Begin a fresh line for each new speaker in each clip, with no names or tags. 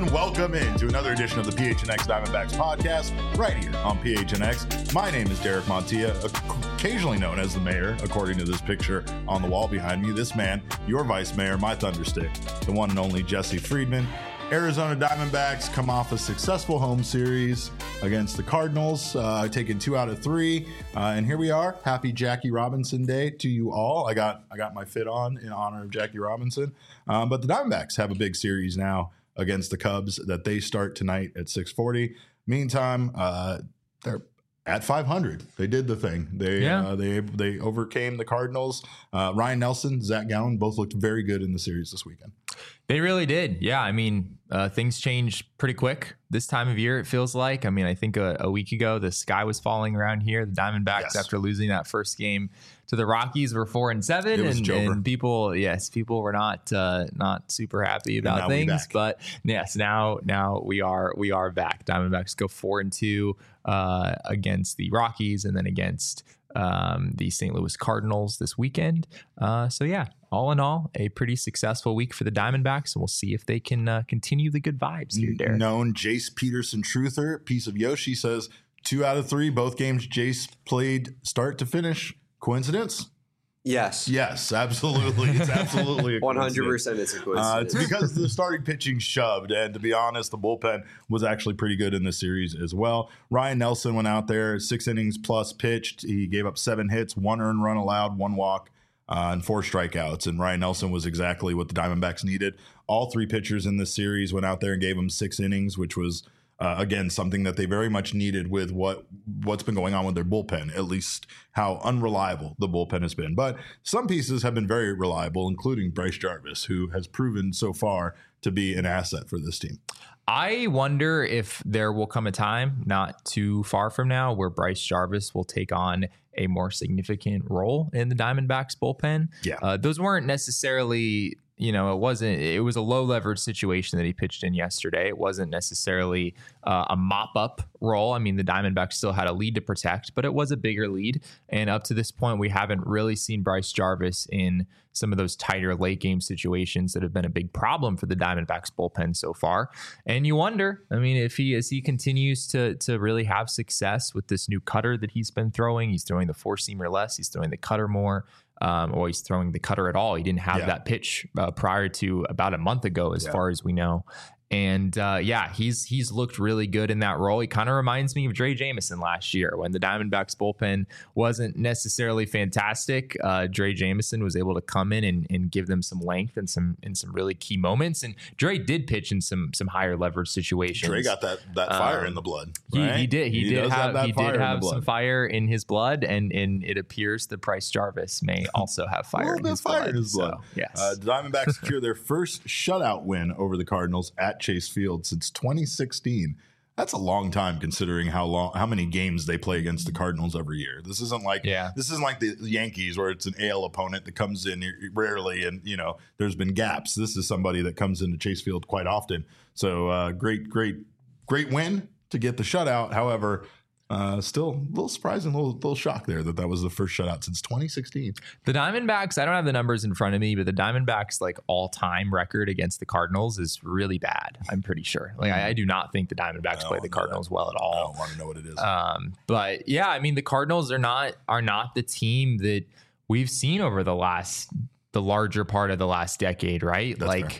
and welcome into another edition of the PHNX Diamondbacks podcast right here on PHNX. My name is Derek Montilla, occasionally known as the mayor, according to this picture on the wall behind me. This man, your vice mayor, my thunderstick, the one and only Jesse Friedman. Arizona Diamondbacks come off a successful home series against the Cardinals, taking 2 out of 3. And here we are. Happy Jackie Robinson Day to you all. I got my fit on in honor of Jackie Robinson. But the Diamondbacks have a big series now against the Cubs that they start tonight at 6:40. Meantime, they're at 500. They did the thing. They overcame the Cardinals. Ryan Nelson, Zach Gallen both looked very good in the series this weekend.
They really did. Yeah. I mean, things change pretty quick this time of year, it feels like. I mean, I think a week ago, the sky was falling around here. The Diamondbacks, after losing that first game to the Rockies, were 4-7. And people were not super happy about things. But yes, now we are back. Diamondbacks go 4-2 against the Rockies and then against the St. Louis Cardinals this weekend. So yeah, all in all, a pretty successful week for the Diamondbacks, and we'll see if they can continue the good vibes here, Derek.
Known Jace Peterson truther, piece of Yoshi, says 2 out of 3, both games Jace played start to finish. Coincidence?
Yes,
absolutely. It's absolutely a
100%. It's a coincidence.
It's because the starting pitching shoved, and to be honest, the bullpen was actually pretty good in this series as well. Ryan Nelson went out there, 6 innings plus pitched. He gave up 7 hits, 1 earned run allowed, 1 walk, and 4 strikeouts. And Ryan Nelson was exactly what the Diamondbacks needed. All 3 pitchers in this series went out there and gave him 6 innings, which was again, something that they very much needed with what's been going on with their bullpen, at least how unreliable the bullpen has been. But some pieces have been very reliable, including Bryce Jarvis, who has proven so far to be an asset for this team.
I wonder if there will come a time not too far from now where Bryce Jarvis will take on a more significant role in the Diamondbacks bullpen.
Yeah.
Those weren't necessarily... it was a low leverage situation that he pitched in yesterday. It wasn't necessarily a mop up role. I mean, the Diamondbacks still had a lead to protect, but it was a bigger lead. And up to this point, we haven't really seen Bryce Jarvis in some of those tighter late game situations that have been a big problem for the Diamondbacks bullpen so far. And you wonder, I mean, as he continues to really have success with this new cutter that he's been throwing, he's throwing the 4-seamer less, he's throwing the cutter more. Or he's throwing the cutter at all. He didn't have that pitch prior to about a month ago, as far as we know. And he's looked really good in that role. He kind of reminds me of Dre Jameson last year when the Diamondbacks bullpen wasn't necessarily fantastic. Dre Jameson was able to come in and give them some length and some really key moments. And Dre did pitch in some higher leverage situations.
Dre got that fire in the blood. Right?
He did. He did have some fire in his blood, and it appears that Bryce Jarvis may also have fire in his blood. So, yes.
The Diamondbacks secure their first shutout win over the Cardinals at Chase Field since 2016. That's a long time considering how many games they play against the Cardinals every year. This isn't like the Yankees where it's an AL opponent that comes in rarely and there's been gaps. This is somebody that comes into Chase Field quite often. So great win to get the shutout. However, still a little surprising, a little shock there that was the first shutout since 2016.
The Diamondbacks, I don't have the numbers in front of me, but the Diamondbacks all-time record against the Cardinals is really bad. I'm pretty sure. I do not think the Diamondbacks play the Cardinals well at all.
I don't want to know what it is.
But yeah, I mean, the Cardinals are not the team that we've seen over the larger part of the last decade, right?
That's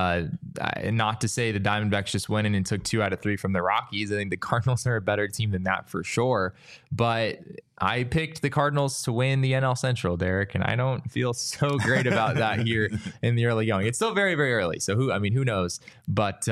Not to say the Diamondbacks just went in and took 2 out of 3 from the Rockies. I think the Cardinals are a better team than that for sure. But I picked the Cardinals to win the NL Central, Derek, and I don't feel so great about that here in the early going. It's still very, very early. So who knows? But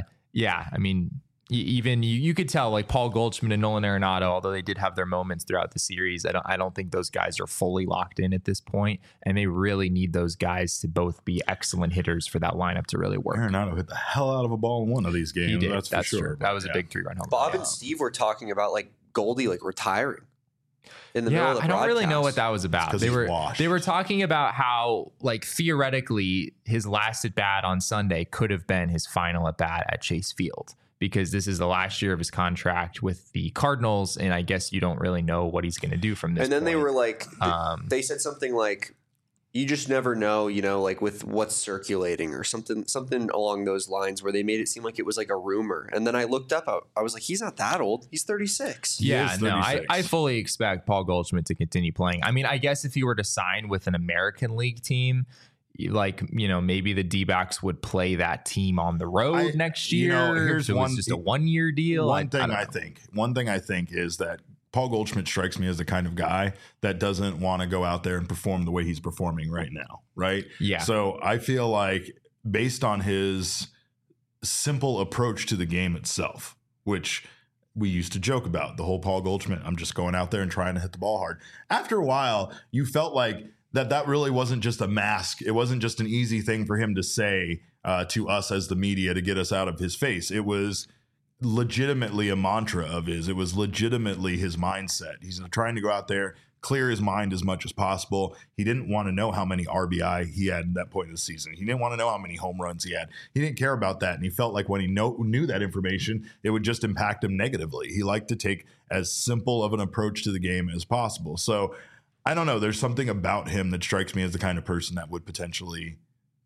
even you could tell, like Paul Goldschmidt and Nolan Arenado, although they did have their moments throughout the series, I don't think those guys are fully locked in at this point, and they really need those guys to both be excellent hitters for that lineup to really work.
Arenado hit the hell out of a ball in one of these games.
He did.
That's for sure.
True. That was a big 3-run home.
Bob and Steve were talking about Goldie retiring in the middle of the
I don't really know what that was about. They were talking about how theoretically his last at bat on Sunday could have been his final at bat at Chase Field, because this is the last year of his contract with the Cardinals, and I guess you don't really know what he's going to do from this.
And then
point.
they were they said something like, you just never know, like with what's circulating or something along those lines, where they made it seem like it was like a rumor. And then I looked up, I was like, he's not that old. He's 36.
Yeah,
is
no,
36.
I fully expect Paul Goldschmidt to continue playing. I mean, I guess if he were to sign with an American League team, like, maybe the D-backs would play that team on the road next year.
Here's
so it's just a 1-year deal.
One thing I think is that Paul Goldschmidt strikes me as the kind of guy that doesn't want to go out there and perform the way he's performing right now, right?
Yeah.
So I feel like based on his simple approach to the game itself, which we used to joke about, the whole Paul Goldschmidt, I'm just going out there and trying to hit the ball hard. After a while, you felt like that really wasn't just a mask. It wasn't just an easy thing for him to say to us as the media to get us out of his face. It was legitimately a mantra of his. It was legitimately his mindset. He's trying to go out there, clear his mind as much as possible. He didn't want to know how many RBI he had at that point of the season. He didn't want to know how many home runs he had. He didn't care about that. And he felt like when he knew that information, it would just impact him negatively. He liked to take as simple of an approach to the game as possible. So I don't know. There's something about him that strikes me as the kind of person that would potentially,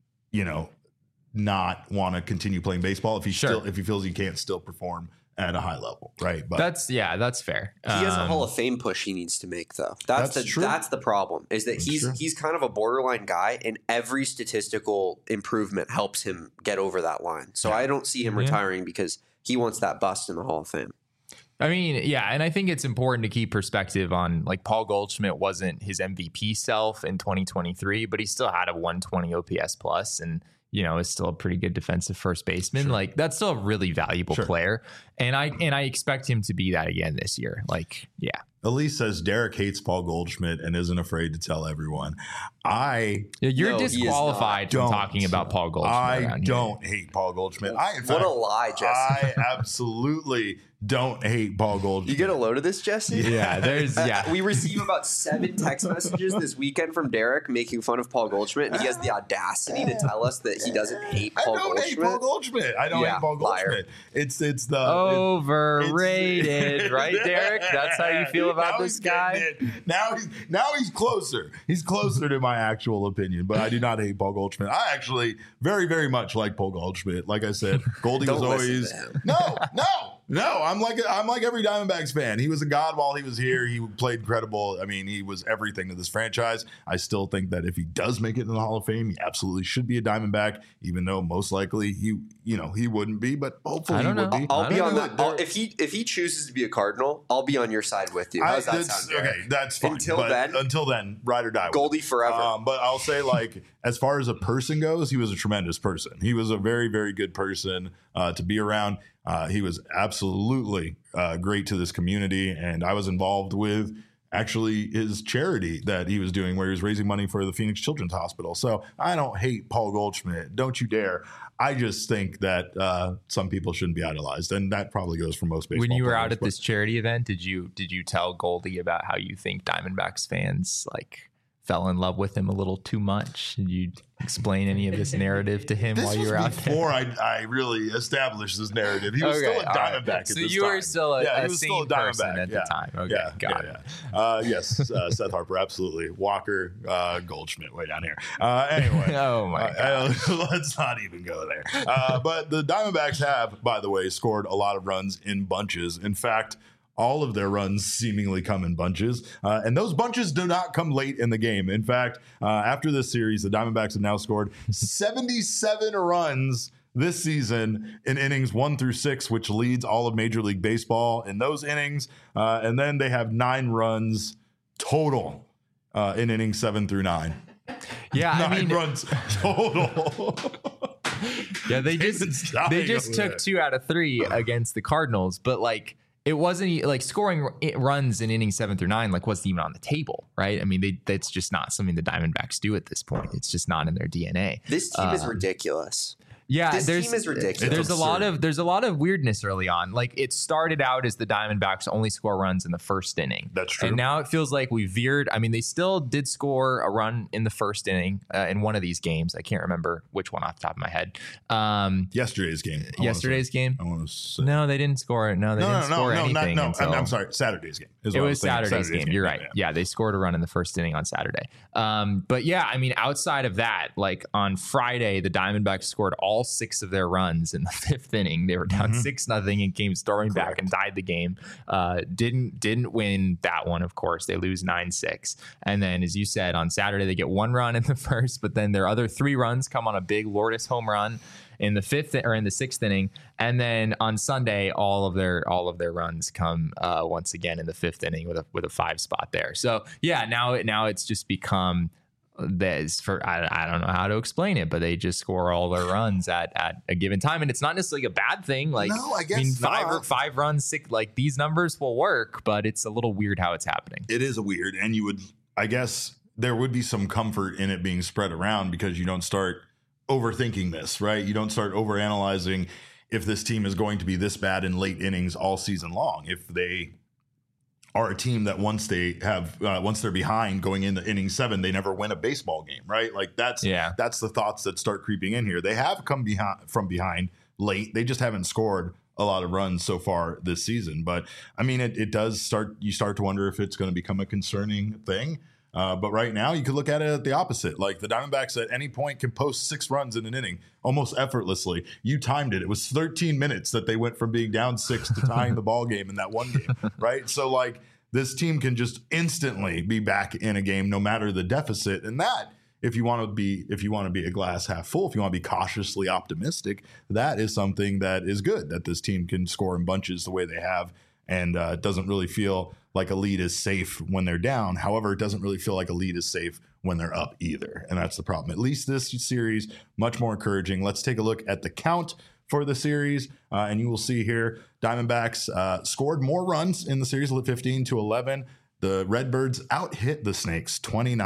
not want to continue playing baseball if he feels he can't still perform at a high level, right? But
that's fair.
He has a Hall of Fame push he needs to make, though. That's the problem, is that he's kind of a borderline guy, and every statistical improvement helps him get over that line. So I don't see him retiring because he wants that bust in the Hall of Fame.
I mean, yeah, and I think it's important to keep perspective on, like, Paul Goldschmidt wasn't his MVP self in 2023, but he still had a 120 OPS plus, and is still a pretty good defensive first baseman. Sure. Like, that's still a really valuable player. And I expect him to be that again this year. Like, yeah.
Elise says Derek hates Paul Goldschmidt and isn't afraid to tell everyone.
You're disqualified from talking about Paul Goldschmidt.
I don't hate Paul Goldschmidt.
What a lie, Jesse.
I absolutely don't hate Paul Goldschmidt.
You get a load of this, Jesse?
Yeah,
we receive about 7 text messages this weekend from Derek making fun of Paul Goldschmidt, and he has the audacity to tell us that he doesn't hate Paul Goldschmidt.
Hate Paul Goldschmidt. I don't hate Paul Goldschmidt. It's the
overrated, right, Derek? That's how you feel about this guy.
Now he's closer. He's closer to my actual opinion, but I do not hate Paul Goldschmidt. I actually very, very much like Paul Goldschmidt. Like I said, Goldie was always no. I'm like every Diamondbacks fan. He was a god while he was here. He played incredible. I mean, he was everything to this franchise. I still think that if he does make it in the Hall of Fame, he absolutely should be a Diamondback, even though most likely he wouldn't be, but hopefully he would be.
I'll be on that. If he chooses to be a Cardinal, I'll be on your side with you. How's that sound?
Okay, that's fine. Until then, ride or die.
Goldie forever.
But I'll say, like, as far as a person goes, he was a tremendous person. He was a very, very good person to be around. He was absolutely great to this community, and I was involved with actually his charity that he was doing where he was raising money for the Phoenix Children's Hospital. So I don't hate Paul Goldschmidt. Don't you dare. I just think that some people shouldn't be idolized, and that probably goes for most baseball
players. When you were
players,
out at this charity event, did you tell Goldie about how you think Diamondbacks fans fell in love with him a little too much? Did you explain any of this narrative to him while you were out there?
Before I really established this narrative, he was still a Diamondback at this time.
So you were still a sane person at the time. Okay, got it.
Yes, Seth Harper, absolutely. Walker, Goldschmidt, way down here. Anyway,
oh my God.
Let's not even go there. But the Diamondbacks have, by the way, scored a lot of runs in bunches. In fact, all of their runs seemingly come in bunches, and those bunches do not come late in the game. In fact, after this series, the Diamondbacks have now scored 77 runs this season in innings 1 through 6, which leads all of Major League Baseball in those innings. And then they have 9 runs total in innings 7 through 9.
Yeah,
9 runs total.
Yeah, they just took 2 out of 3 against the Cardinals, but it wasn't like scoring runs in innings 7 through 9, wasn't even on the table, right? I mean, that's just not something the Diamondbacks do at this point. It's just not in their DNA.
This team is ridiculous.
Yeah,
this team is ridiculous.
There's a lot of weirdness early on. Like it started out as the Diamondbacks only score runs in the first inning.
That's true.
And now it feels like we veered. I mean, they still did score a run in the first inning in one of these games. I can't remember which one off the top of my head.
Yesterday's game. I want to say.
No, they didn't score. No, they didn't score anything.
I'm sorry. Saturday's game.
It was Saturday's game. You're right. Yeah, they scored a run in the first inning on Saturday. But yeah, I mean, outside of that, like on Friday, the Diamondbacks scored all 6 of their runs in the 5th inning. They were down 6-0 and came storming back and tied the game. Didn't win that one, of course. They lose 9-6. And then, as you said, on Saturday, they get 1 run in the first, but then their other 3 runs come on a big Lourdes home run in the 5th or in the 6th inning. And then on Sunday, all of their runs come once again in the 5th inning with a 5 spot there. So yeah, now it's just become this for I don't know how to explain it, but they just score all their runs at a given time, and it's not necessarily a bad thing. Like,
no, I guess
five runs, 6, like these numbers will work, but it's a little weird how it's happening.
It is weird, and I guess there would be some comfort in it being spread around because you don't start overthinking this, right? You don't start overanalyzing if this team is going to be this bad in late innings all season long. If they are a team that once they're behind going into inning 7, they never win a baseball game, right? Like that's the thoughts that start creeping in here. They have come from behind late. They just haven't scored a lot of runs so far this season. But I mean, you start to wonder if it's going to become a concerning thing. But right now, you could look at it at the opposite. Like the Diamondbacks at any point can post 6 runs in an inning almost effortlessly. You timed it. It was 13 minutes that they went from being down 6 to tying the ball game in that one game, right? So like this team can just instantly be back in a game no matter the deficit. And that, if you want to be a glass half full, if you want to be cautiously optimistic, that is something that is good, that this team can score in bunches the way they have. And it doesn't really feel like a lead is safe when they're down. However, it doesn't really feel like a lead is safe when they're up either. And that's the problem. At least this series, much more encouraging. Let's take a look at the count for the series. And you will see here, Diamondbacks scored more runs in the series, 15-11. The Redbirds out-hit the Snakes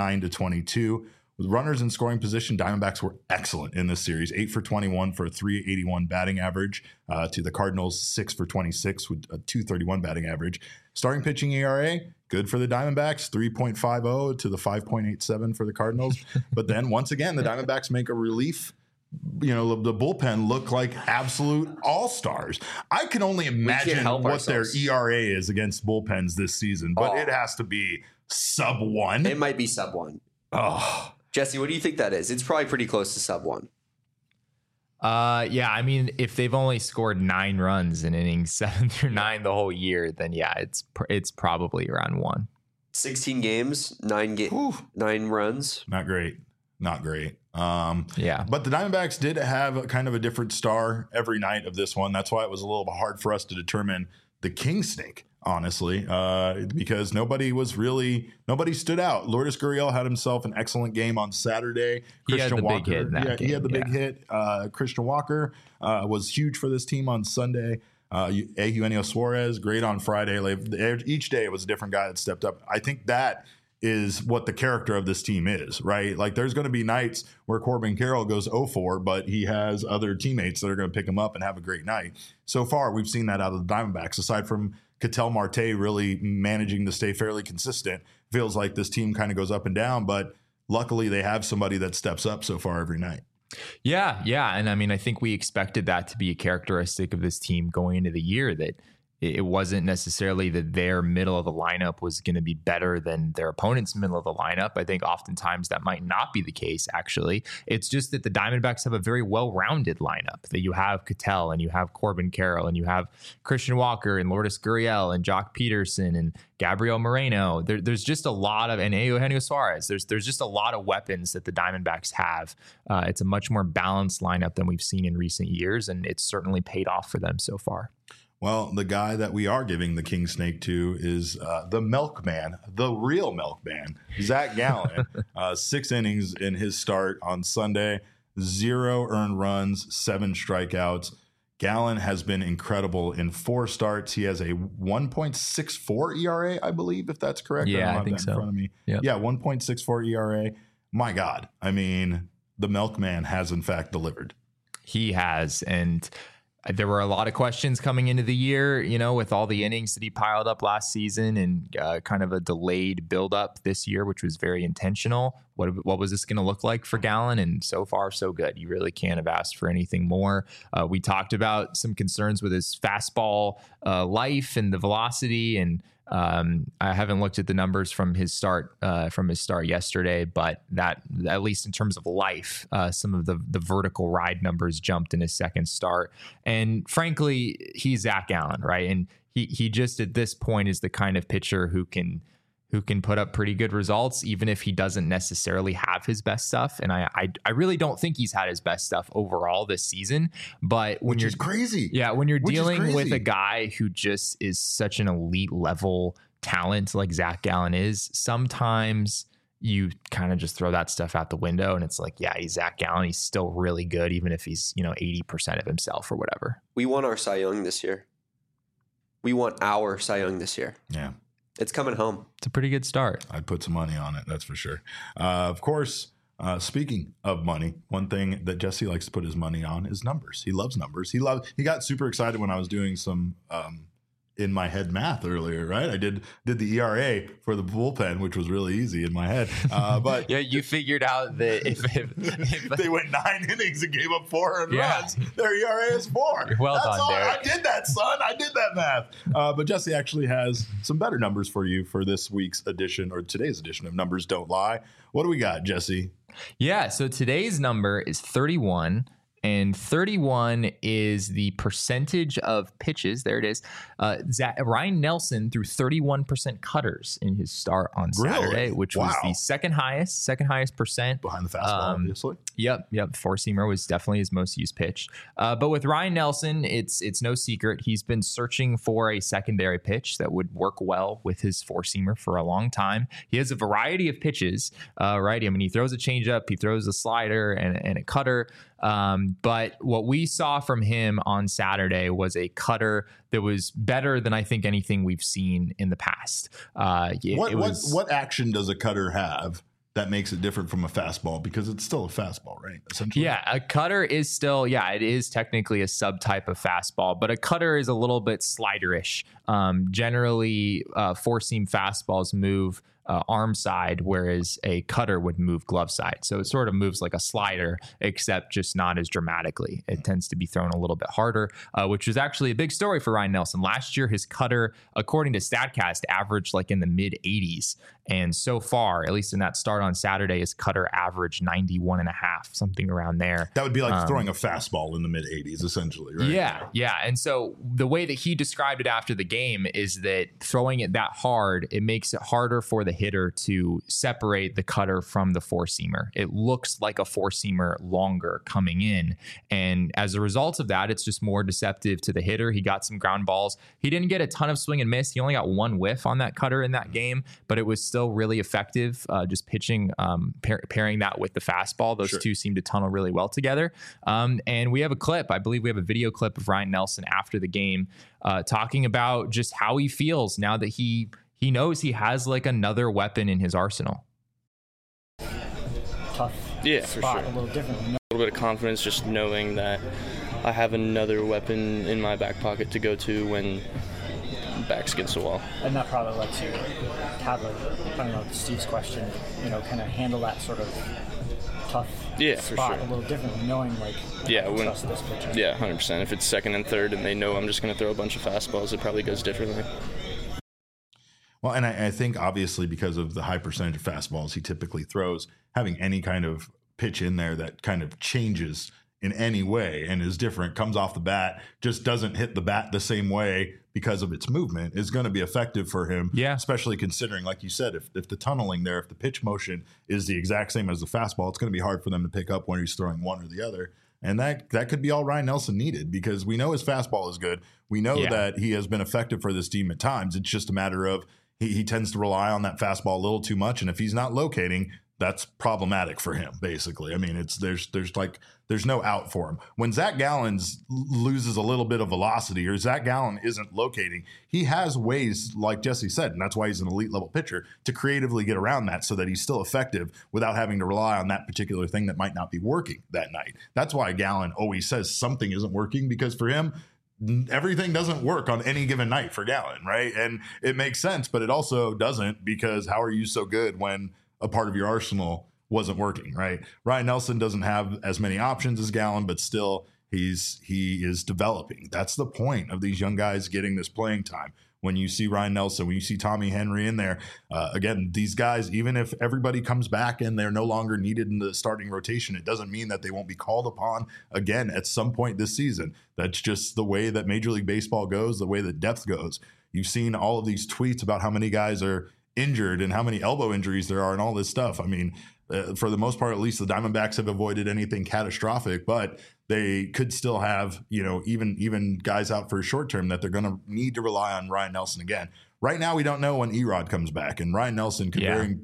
29-22. With runners in scoring position, Diamondbacks were excellent in this series, 8 for 21 for a 381 batting average to the Cardinals, 6 for 26 with a 231 batting average. Starting pitching ERA, good for the Diamondbacks, 3.50 to the 5.87 for the Cardinals. But then once again, the Diamondbacks make a relief. The bullpen look like absolute all-stars. I can only imagine what their ERA is against bullpens this season, but it has to be sub 1.
It might be sub 1.
Oh.
Jesse, what do you think that is? It's probably pretty close to sub 1.
Yeah, I mean, if they've only scored 9 runs in innings 7 through 9 the whole year, then yeah, it's probably around 1.
16 games, 9 runs.
Not great.
Yeah.
But the Diamondbacks did have kind of a different star every night of this one. That's why it was a little hard for us to determine the King Snake, honestly, because nobody stood out. Lourdes Gurriel had himself an excellent game on Saturday.
He had the big
hit. Christian Walker was huge for this team on Sunday. Eugenio Suarez, great on Friday. Each day it was a different guy that stepped up. I think that is what the character of this team is, right? Like there's going to be nights where Corbin Carroll goes 0-4, but he has other teammates that are going to pick him up and have a great night. So far, we've seen that out of the Diamondbacks. Aside from Ketel Marte really managing to stay fairly consistent, feels like this team kind of goes up and down, but luckily they have somebody that steps up so far every night.
Yeah. And I mean, I think we expected that to be a characteristic of this team going into the year, that it wasn't necessarily that their middle of the lineup was going to be better than their opponent's middle of the lineup. I think oftentimes that might not be the case, actually. It's just that the Diamondbacks have a very well-rounded lineup, that you have Ketel and you have Corbin Carroll and you have Christian Walker and Lourdes Gurriel and Jock Peterson and Gabriel Moreno. There's just a lot of, and Eugenio Suarez. There's just a lot of weapons that the Diamondbacks have. It's a much more balanced lineup than we've seen in recent years, and it's certainly paid off for them so far.
Well, the guy that we are giving the King Snake to is the milkman, the real milkman, Zach Gallen. 6 innings in his start on Sunday, 0 earned runs, 7 strikeouts. Gallen has been incredible in 4 starts. He has a 1.64 ERA, I believe, if that's correct.
Yeah, I think so.
In front of me. Yep. Yeah, 1.64 ERA. My God. I mean, the milkman has in fact delivered.
He has. And there were a lot of questions coming into the year, with all the innings that he piled up last season and kind of a delayed buildup this year, which was very intentional. What was this going to look like for Gallen? And so far, so good. You really can't have asked for anything more. We talked about some concerns with his fastball life and the velocity, and I haven't looked at the numbers from his start yesterday, but that, at least in terms of life, some of the vertical ride numbers jumped in his second start. And frankly, he's Zach Gallen, right? And he just at this point is the kind of pitcher who can put up pretty good results, even if he doesn't necessarily have his best stuff. And I really don't think he's had his best stuff overall this season. But when
Which is crazy.
Yeah, when you're dealing with a guy who just is such an elite level talent like Zach Gallen is, sometimes you kind of just throw that stuff out the window and it's like, yeah, he's Zach Gallen. He's still really good, even if he's, 80% of himself or whatever.
We won our Cy Young this year.
Yeah.
It's coming home.
It's a pretty good start.
I'd put some money on it, that's for sure. Of course, speaking of money, one thing that Jesse likes to put his money on is numbers. He loves numbers. He got super excited when I was doing some in my head math earlier, right? I did the ERA for the bullpen, which was really easy in my head. But
yeah, you figured out that if
they went 9 innings and gave up 4 runs, their ERA is 4.
Well
That's
done,
all.
Derek.
I did that, son. I did that math. But Jesse actually has some better numbers for you for this week's edition, or today's edition of Numbers Don't Lie. What do we got, Jesse?
Yeah, so today's number is 31. And 31 is the percentage of pitches. There it is. Ryan Nelson threw 31% cutters in his start on Saturday, which was the second highest percent.
Behind the fastball, obviously.
Yep. Four-seamer was definitely his most used pitch. But with Ryan Nelson, it's no secret. He's been searching for a secondary pitch that would work well with his four-seamer for a long time. He has a variety of pitches, right? I mean, he throws a changeup, he throws a slider and a cutter. But what we saw from him on Saturday was a cutter that was better than I think anything we've seen in the past.
What action does a cutter have that makes it different from a fastball? Because it's still a fastball, right? Essentially.
Yeah, a cutter is still, it is technically a subtype of fastball, but a cutter is a little bit sliderish. Generally, four-seam fastballs move arm side, whereas a cutter would move glove side. So it sort of moves like a slider, except just not as dramatically. It tends to be thrown a little bit harder, which was actually a big story for Ryan Nelson. Last year, his cutter, according to StatCast, averaged like in the mid 80s. And so far, at least in that start on Saturday, his cutter averaged 91.5, something around there.
That would be like throwing a fastball in the mid 80s, essentially, right?
Yeah. And so the way that he described it after the game is that throwing it that hard, it makes it harder for the hitter to separate the cutter from the four-seamer. It looks like a four-seamer longer coming in. And as a result of that, it's just more deceptive to the hitter. He got some ground balls. He didn't get a ton of swing and miss. He only got one whiff on that cutter in that game, but it was still really effective. Just pitching, pairing that with the fastball. Those two seem to tunnel really well together. And we have a clip. I believe we have a video clip of Ryan Nelson after the game talking about just how he feels now that he knows he has like another weapon in his arsenal.
Tough spot, for sure. A little different. A
little bit of confidence just knowing that I have another weapon in my back pocket to go to when back's against the wall.
And that probably lets you have Steve's question, kind of handle that sort of tough spot
for sure.
A little differently, knowing trust this pitcher.
Yeah, 100%. If it's second and third and they know I'm just going to throw a bunch of fastballs, it probably goes differently.
Well, and I think obviously because of the high percentage of fastballs he typically throws, having any kind of pitch in there that kind of changes in any way and is different, comes off the bat, just doesn't hit the bat the same way because of its movement, is going to be effective for him. Yeah. Especially considering, like you said, if the tunneling there, if the pitch motion is the exact same as the fastball, it's going to be hard for them to pick up when he's throwing one or the other. And that could be all Ryan Nelson needed, because we know his fastball is good. We know that he has been effective for this team at times. It's just a matter of he tends to rely on that fastball a little too much. And if he's not locating, that's problematic for him, basically. I mean, there's no out for him. When Zach Gallen loses a little bit of velocity or Zach Gallen isn't locating, he has ways, like Jesse said, and that's why he's an elite level pitcher, to creatively get around that so that he's still effective without having to rely on that particular thing that might not be working that night. That's why Gallen always says something isn't working, because for him, everything doesn't work on any given night for Gallen, right? And it makes sense, but it also doesn't, because how are you so good when a part of your arsenal wasn't working, right? Ryan Nelson doesn't have as many options as Gallen, but still he is developing. That's the point of these young guys getting this playing time. When you see Ryan Nelson, when you see Tommy Henry in there, again, these guys, even if everybody comes back and they're no longer needed in the starting rotation, it doesn't mean that they won't be called upon again at some point this season. That's just the way that Major League Baseball goes, the way that depth goes. You've seen all of these tweets about how many guys are injured and how many elbow injuries there are and all this stuff. I mean, for the most part, at least the Diamondbacks have avoided anything catastrophic, but they could still have, even guys out for a short term that they're going to need to rely on Ryan Nelson again. Right now, we don't know when Erod comes back, and Ryan Nelson could very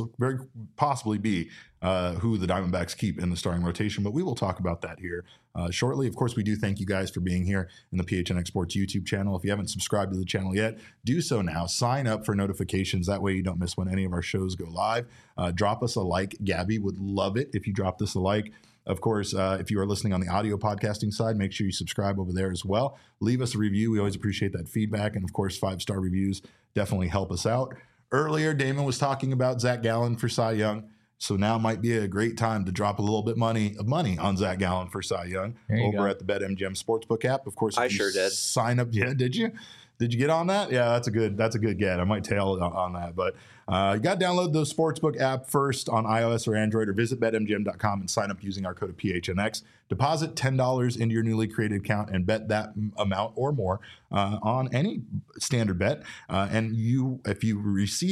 possibly be who the Diamondbacks keep in the starting rotation, but we will talk about that here shortly. Of course, we do thank you guys for being here in the PHNX Sports YouTube channel. If you haven't subscribed to the channel yet, do so now. Sign up for notifications. That way you don't miss when any of our shows go live. Drop us a like. Gabby would love it if you dropped us a like. Of course, if you are listening on the audio podcasting side, make sure you subscribe over there as well. Leave us a review. We always appreciate that feedback. And of course, 5-star reviews definitely help us out. Earlier, Damon was talking about Zach Gallen for Cy Young. So now might be a great time to drop a little bit of money on Zach Gallen for Cy Young over at the BetMGM Sportsbook app. Of course,
I sure did.
Sign up. Yeah, did you? Did you get on that? Yeah, that's a good get. I might tail on that, but you got to download the Sportsbook app first on iOS or Android, or visit BetMGM.com and sign up using our code of PHNX. Deposit $10 into your newly created account and bet that amount or more on any standard bet. And if you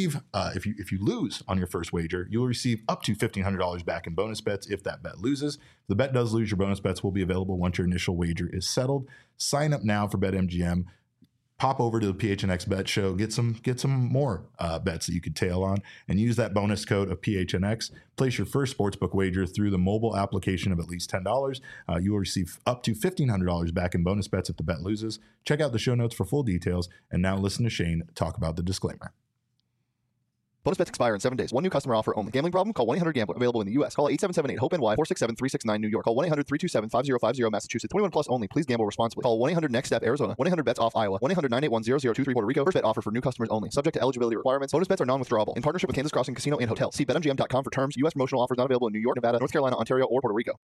lose on your first wager, you'll receive up to $1,500 back in bonus bets if that bet loses. If the bet does lose, your bonus bets will be available once your initial wager is settled. Sign up now for BetMGM. Pop over to the PHNX Bet Show, get some more bets that you could tail on, and use that bonus code of PHNX. Place your first sportsbook wager through the mobile application of at least $10. You will receive up to $1,500 back in bonus bets if the bet loses. Check out the show notes for full details. And now listen to Shane talk about the disclaimer.
Bonus bets expire in 7 days. One new customer offer only. Gambling problem? Call 1-800-GAMBLER. Available in the U.S. Call 877-8-HOPE-NY 467-369 New York. Call 1-800-327-5050 Massachusetts. 21 plus only. Please gamble responsibly. Call 1-800-NEXT-STEP Arizona. 1-800-BETS-OFF Iowa. 1-981-0023 Puerto Rico. First bet offer for new customers only. Subject to eligibility requirements. Bonus bets are non-withdrawable. In partnership with Kansas Crossing Casino and Hotel. See BetMGM.com for terms. U.S. promotional offers not available in New York, Nevada, North Carolina, Ontario, or Puerto Rico.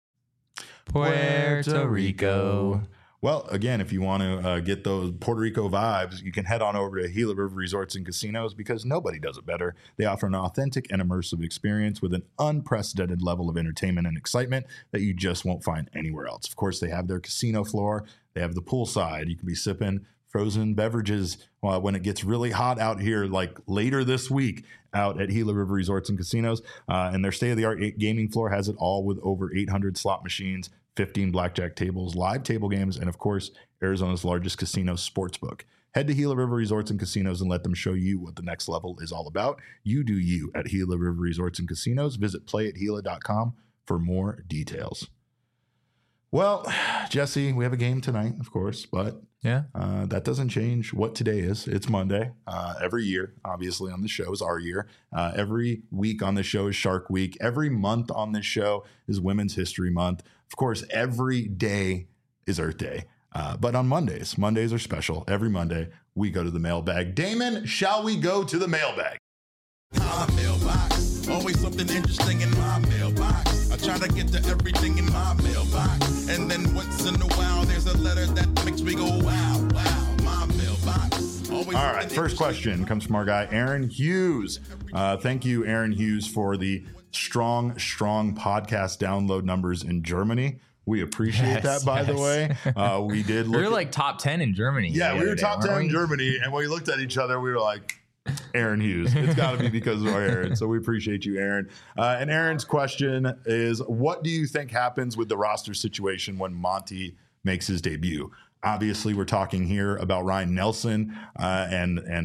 Puerto Rico.
Well, again, if you want to get those Puerto Rico vibes, you can head on over to Gila River Resorts and Casinos, because nobody does it better. They offer an authentic and immersive experience with an unprecedented level of entertainment and excitement that you just won't find anywhere else. Of course, they have their casino floor. They have the poolside. You can be sipping frozen beverages when it gets really hot out here, like later this week out at Gila River Resorts and Casinos. And their state-of-the-art gaming floor has it all, with over 800 slot machines, 15 blackjack tables, live table games, and of course, Arizona's largest casino sportsbook. Head to Gila River Resorts and Casinos and let them show you what the next level is all about. You do you at Gila River Resorts and Casinos. Visit playathila.com for more details. Well, Jesse, we have a game tonight, of course, but that doesn't change what today is. It's Monday. Every year, obviously, on the show is our year. Every week on the show is Shark Week. Every month on this show is Women's History Month. Of course, every day is Earth Day. But on Mondays are special. Every Monday, we go to the mailbag. Damon, shall we go to the mailbag?
My mailbox, always something interesting in my mailbox. I try to get to everything in my mailbox, and then once in a while there's a letter that makes me go wow, wow. My mailbox. All
right, first question comes from our guy Aaron Hughes. Thank you, Aaron Hughes, for the strong podcast download numbers in Germany. We appreciate that, by the way. We did look.
We were like top 10 in Germany.
Yeah, we were top 10 in Germany, and when we looked at each other, we were like, Aaron Hughes. It's got to be because of our Aaron. So we appreciate you, Aaron. And Aaron's question is, what do you think happens with the roster situation when Monty makes his debut? Obviously, we're talking here about Ryan Nelson, and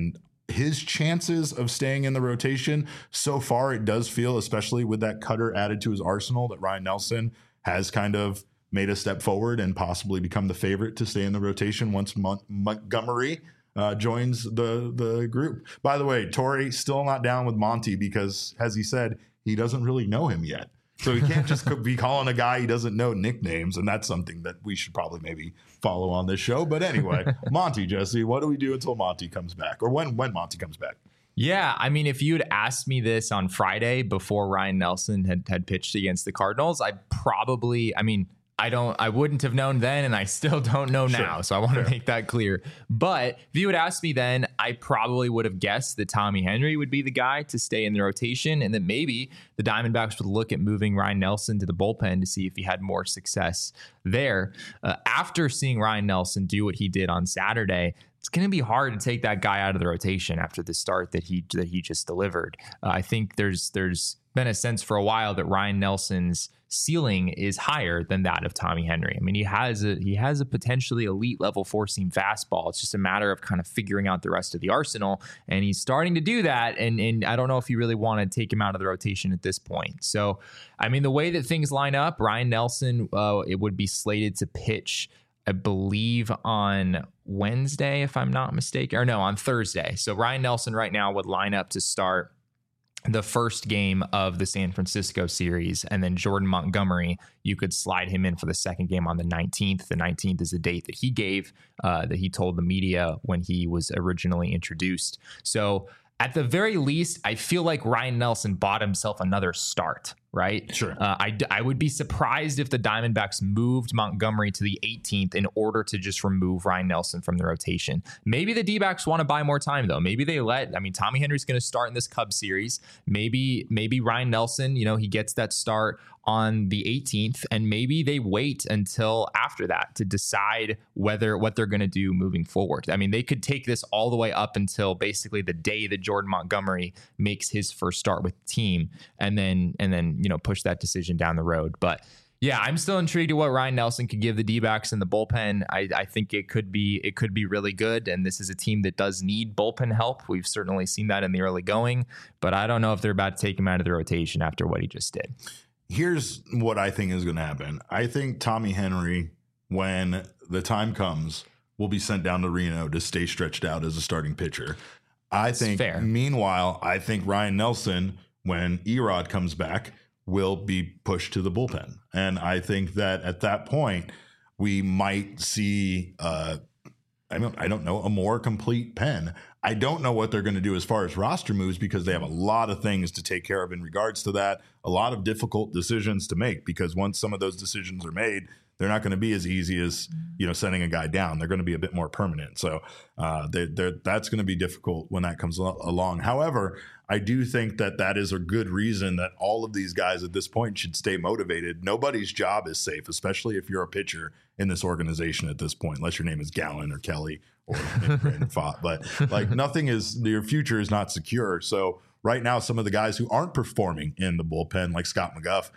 his chances of staying in the rotation so far, it does feel, especially with that cutter added to his arsenal, that Ryan Nelson has kind of made a step forward and possibly become the favorite to stay in the rotation once Montgomery joins the group. By the way, Torrey still not down with Monty because, as he said, he doesn't really know him yet. So he can't just be calling a guy he doesn't know nicknames, and that's something that we should probably maybe follow on this show. But anyway, Monty, Jesse, what do we do until Monty comes back, or when Monty comes back?
Yeah, I mean, if you had asked me this on Friday before Ryan Nelson had pitched against the Cardinals, I wouldn't have known then, and I still don't know now. So I want to make that clear. But if you had asked me then, I probably would have guessed that Tommy Henry would be the guy to stay in the rotation, and that maybe the Diamondbacks would look at moving Ryan Nelson to the bullpen to see if he had more success there. After seeing Ryan Nelson do what he did on Saturday, it's going to be hard to take that guy out of the rotation after the start that he just delivered. I think there's been a sense for a while that Ryan Nelson's ceiling is higher than that of Tommy Henry. I mean, he has a potentially elite level 4-seam fastball. It's just a matter of kind of figuring out the rest of the arsenal, and he's starting to do that. And I don't know if you really want to take him out of the rotation at this point. So, I mean, the way that things line up, Ryan Nelson, it would be slated to pitch, I believe, on Wednesday, if I'm not mistaken, or no, on Thursday. So Ryan Nelson right now would line up to start the first game of the San Francisco series, and then Jordan Montgomery, you could slide him in for the second game on the 19th. The 19th is a date that he gave, that he told the media when he was originally introduced. So at the very least, I feel like Ryan Nelson bought himself another start, right?
Sure.
I would be surprised if the Diamondbacks moved Montgomery to the 18th in order to just remove Ryan Nelson from the rotation. Maybe the D-backs want to buy more time, though. Maybe they Tommy Henry's going to start in this Cubs series. Maybe Ryan Nelson, he gets that start on the 18th, and maybe they wait until after that to decide what they're going to do moving forward. I mean, they could take this all the way up until basically the day that Jordan Montgomery makes his first start with the team, and then push that decision down the road. But yeah, I'm still intrigued at what Ryan Nelson could give the D-backs in the bullpen. I think it could be really good, and this is a team that does need bullpen help. We've certainly seen that in the early going, but I don't know if they're about to take him out of the rotation after what he just did.
Here's what I think is going to happen. I think Tommy Henry, when the time comes, will be sent down to Reno to stay stretched out as a starting pitcher. Meanwhile, I think Ryan Nelson, when Erod comes back, will be pushed to the bullpen. And I think that at that point, we might see, I don't know, a more complete pen. I don't know what they're going to do as far as roster moves, because they have a lot of things to take care of in regards to that, a lot of difficult decisions to make, because once some of those decisions are made, they're not going to be as easy as, sending a guy down. They're going to be a bit more permanent. So that's going to be difficult when that comes along. However, I do think that is a good reason that all of these guys at this point should stay motivated. Nobody's job is safe, especially if you're a pitcher in this organization at this point, unless your name is Gallen or Kelly or Brandon Pfaadt. But nothing is, your future is not secure. So right now, some of the guys who aren't performing in the bullpen, like Scott McGough,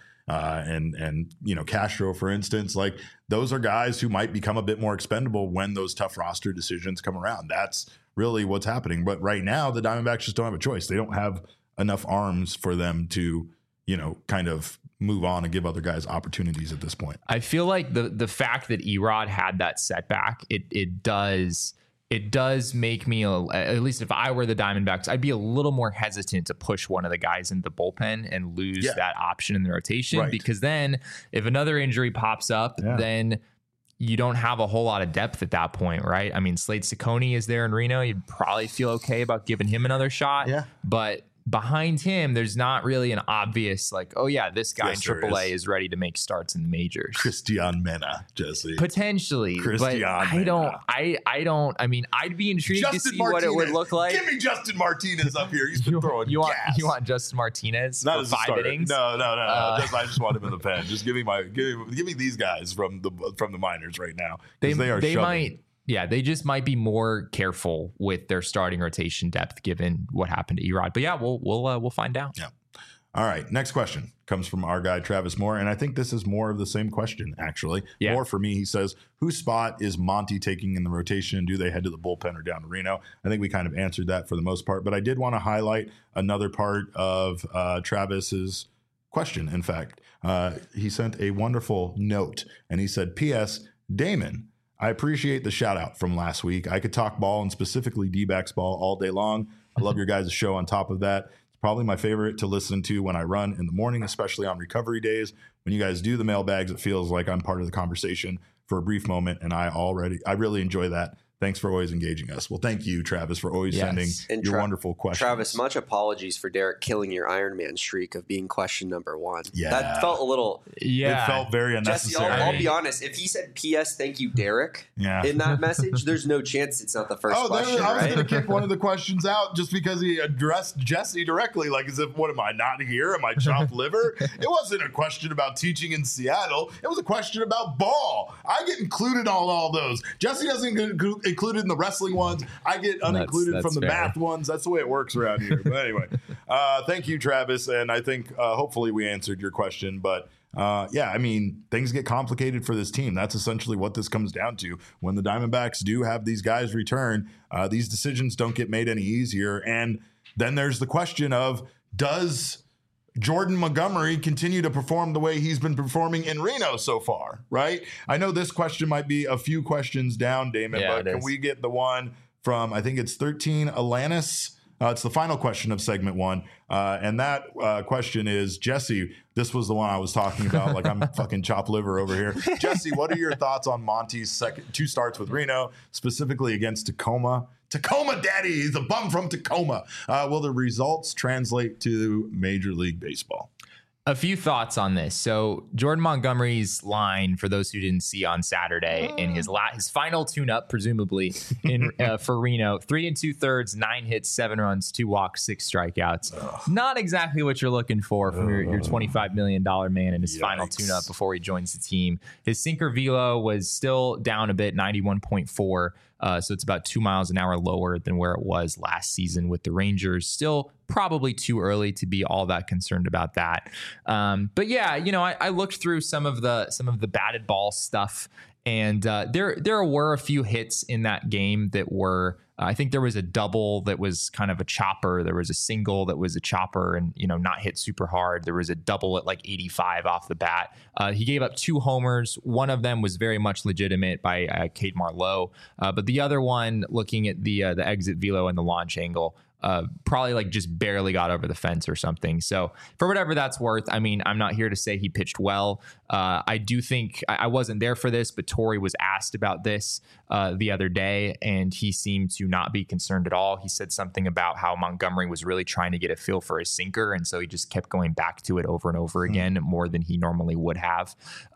and Castro, for instance, like those are guys who might become a bit more expendable when those tough roster decisions come around. That's really what's happening. But right now, the Diamondbacks just don't have a choice. They don't have enough arms for them to, kind of move on and give other guys opportunities at this point.
I feel like the fact that Erod had that setback, it does make me, at least if I were the Diamondbacks, I'd be a little more hesitant to push one of the guys into the bullpen and lose that option in the rotation. Right. Because then if another injury pops up, then you don't have a whole lot of depth at that point, right? I mean, Slade Ciccone is there in Reno. You'd probably feel okay about giving him another shot. Yeah. But behind him, there's not really an obvious this guy in AAA is ready to make starts in the majors.
Cristian Mena, Jesse.
Potentially.
Cristian Mena.
I mean, I'd be intrigued
Justin
to see
Martinez.
what it would look like.
Give me Justin Martinez up here. He's been throwing
you
gas.
You want Justin Martinez
not
for
as
5 innings?
No. I just want him in the pen. Just give me these guys from the minors right now. They
might. Yeah, they just might be more careful with their starting rotation depth given what happened to Erod. But yeah, we'll find out.
Yeah. All right, next question comes from our guy, Travis Moore. And I think this is more of the same question, actually. Yeah. More for me. He says, whose spot is Monty taking in the rotation? Do they head to the bullpen or down to Reno? I think we kind of answered that for the most part. But I did want to highlight another part of Travis's question. In fact, he sent a wonderful note. And he said, P.S. Damon, I appreciate the shout out from last week. I could talk ball and specifically D-backs ball all day long. I love your guys' show on top of that. Probably my favorite to listen to when I run in the morning, especially on recovery days. When you guys do the mailbags, it feels like I'm part of the conversation for a brief moment, and I really enjoy that. Thanks for always engaging us. Well, thank you, Travis, for always sending your wonderful questions.
Travis, much apologies for Derek killing your Iron Man streak of being question number 1.
Yeah.
That felt a little...
Yeah. It felt very unnecessary.
Jesse, I'll be honest. If he said, P.S. thank you, Derek, in that message, there's no chance it's not the first question,
I was going to kick one of the questions out just because he addressed Jesse directly, like as if, what am I, not here? Am I chopped liver? It wasn't a question about teaching in Seattle. It was a question about ball. I get included on all those. Jesse doesn't get included in the wrestling ones. I get unincluded from the math ones. That's the way it works around here. But anyway, thank you, Travis. And I think hopefully we answered your question. But I mean, things get complicated for this team. That's essentially what this comes down to. When the Diamondbacks do have these guys return, these decisions don't get made any easier. And then there's the question of, does Jordan Montgomery continue to perform the way he's been performing in Reno so far, right? I know this question might be a few questions down, Damon, but can we get the one from, I think it's 13 Alanis? It's the final question of segment 1. And that question is, Jesse, this was the one I was talking about, like I'm fucking chopped liver over here. Jesse, what are your thoughts on Monty's second 2 starts with Reno, specifically against Tacoma? Tacoma, daddy, he's a bum from Tacoma. Will the results translate to Major League Baseball?
A few thoughts on this. So Jordan Montgomery's line, for those who didn't see on Saturday, in his final tune-up, presumably in for Reno, 3 2/3, 9 hits, 7 runs, 2 walks, 6 strikeouts. Not exactly what you're looking for from your $25 million man in his final tune-up before he joins the team. His sinker velo was still down a bit, 91.4. So it's about 2 miles an hour lower than where it was last season with the Rangers. Still probably too early to be all that concerned about that. But yeah, I looked through some of the batted ball stuff, and there were a few hits in that game that were. I think there was a double that was kind of a chopper. There was a single that was a chopper and, not hit super hard. There was a double at like 85 off the bat. He gave up 2 homers. One of them was very much legitimate by Cade Marlowe. But the other one, looking at the exit velo and the launch angle, probably like just barely got over the fence or something. So for whatever that's worth, I mean, I'm not here to say he pitched well. I do think I wasn't there for this, but Torey was asked about this the other day, and he seemed to not be concerned at all. He said something about how Montgomery was really trying to get a feel for his sinker, and so he just kept going back to it over and over again, more than he normally would have.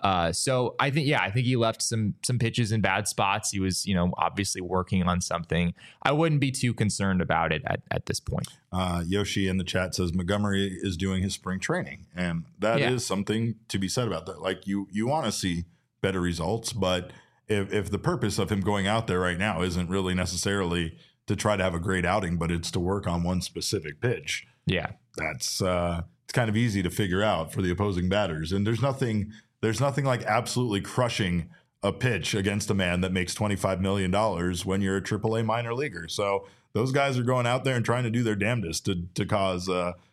So I think he left some pitches in bad spots. He was, obviously working on something. I wouldn't be too concerned about it at this point.
Yoshi in the chat says Montgomery is doing his spring training, and that is something to be said about that. Like you want to see better results, but if the purpose of him going out there right now isn't really necessarily to try to have a great outing, but it's to work on one specific pitch, that's it's kind of easy to figure out for the opposing batters. And there's nothing like absolutely crushing a pitch against a man that makes $25 million when you're a AAA minor leaguer. So those guys are going out there and trying to do their damnedest to cause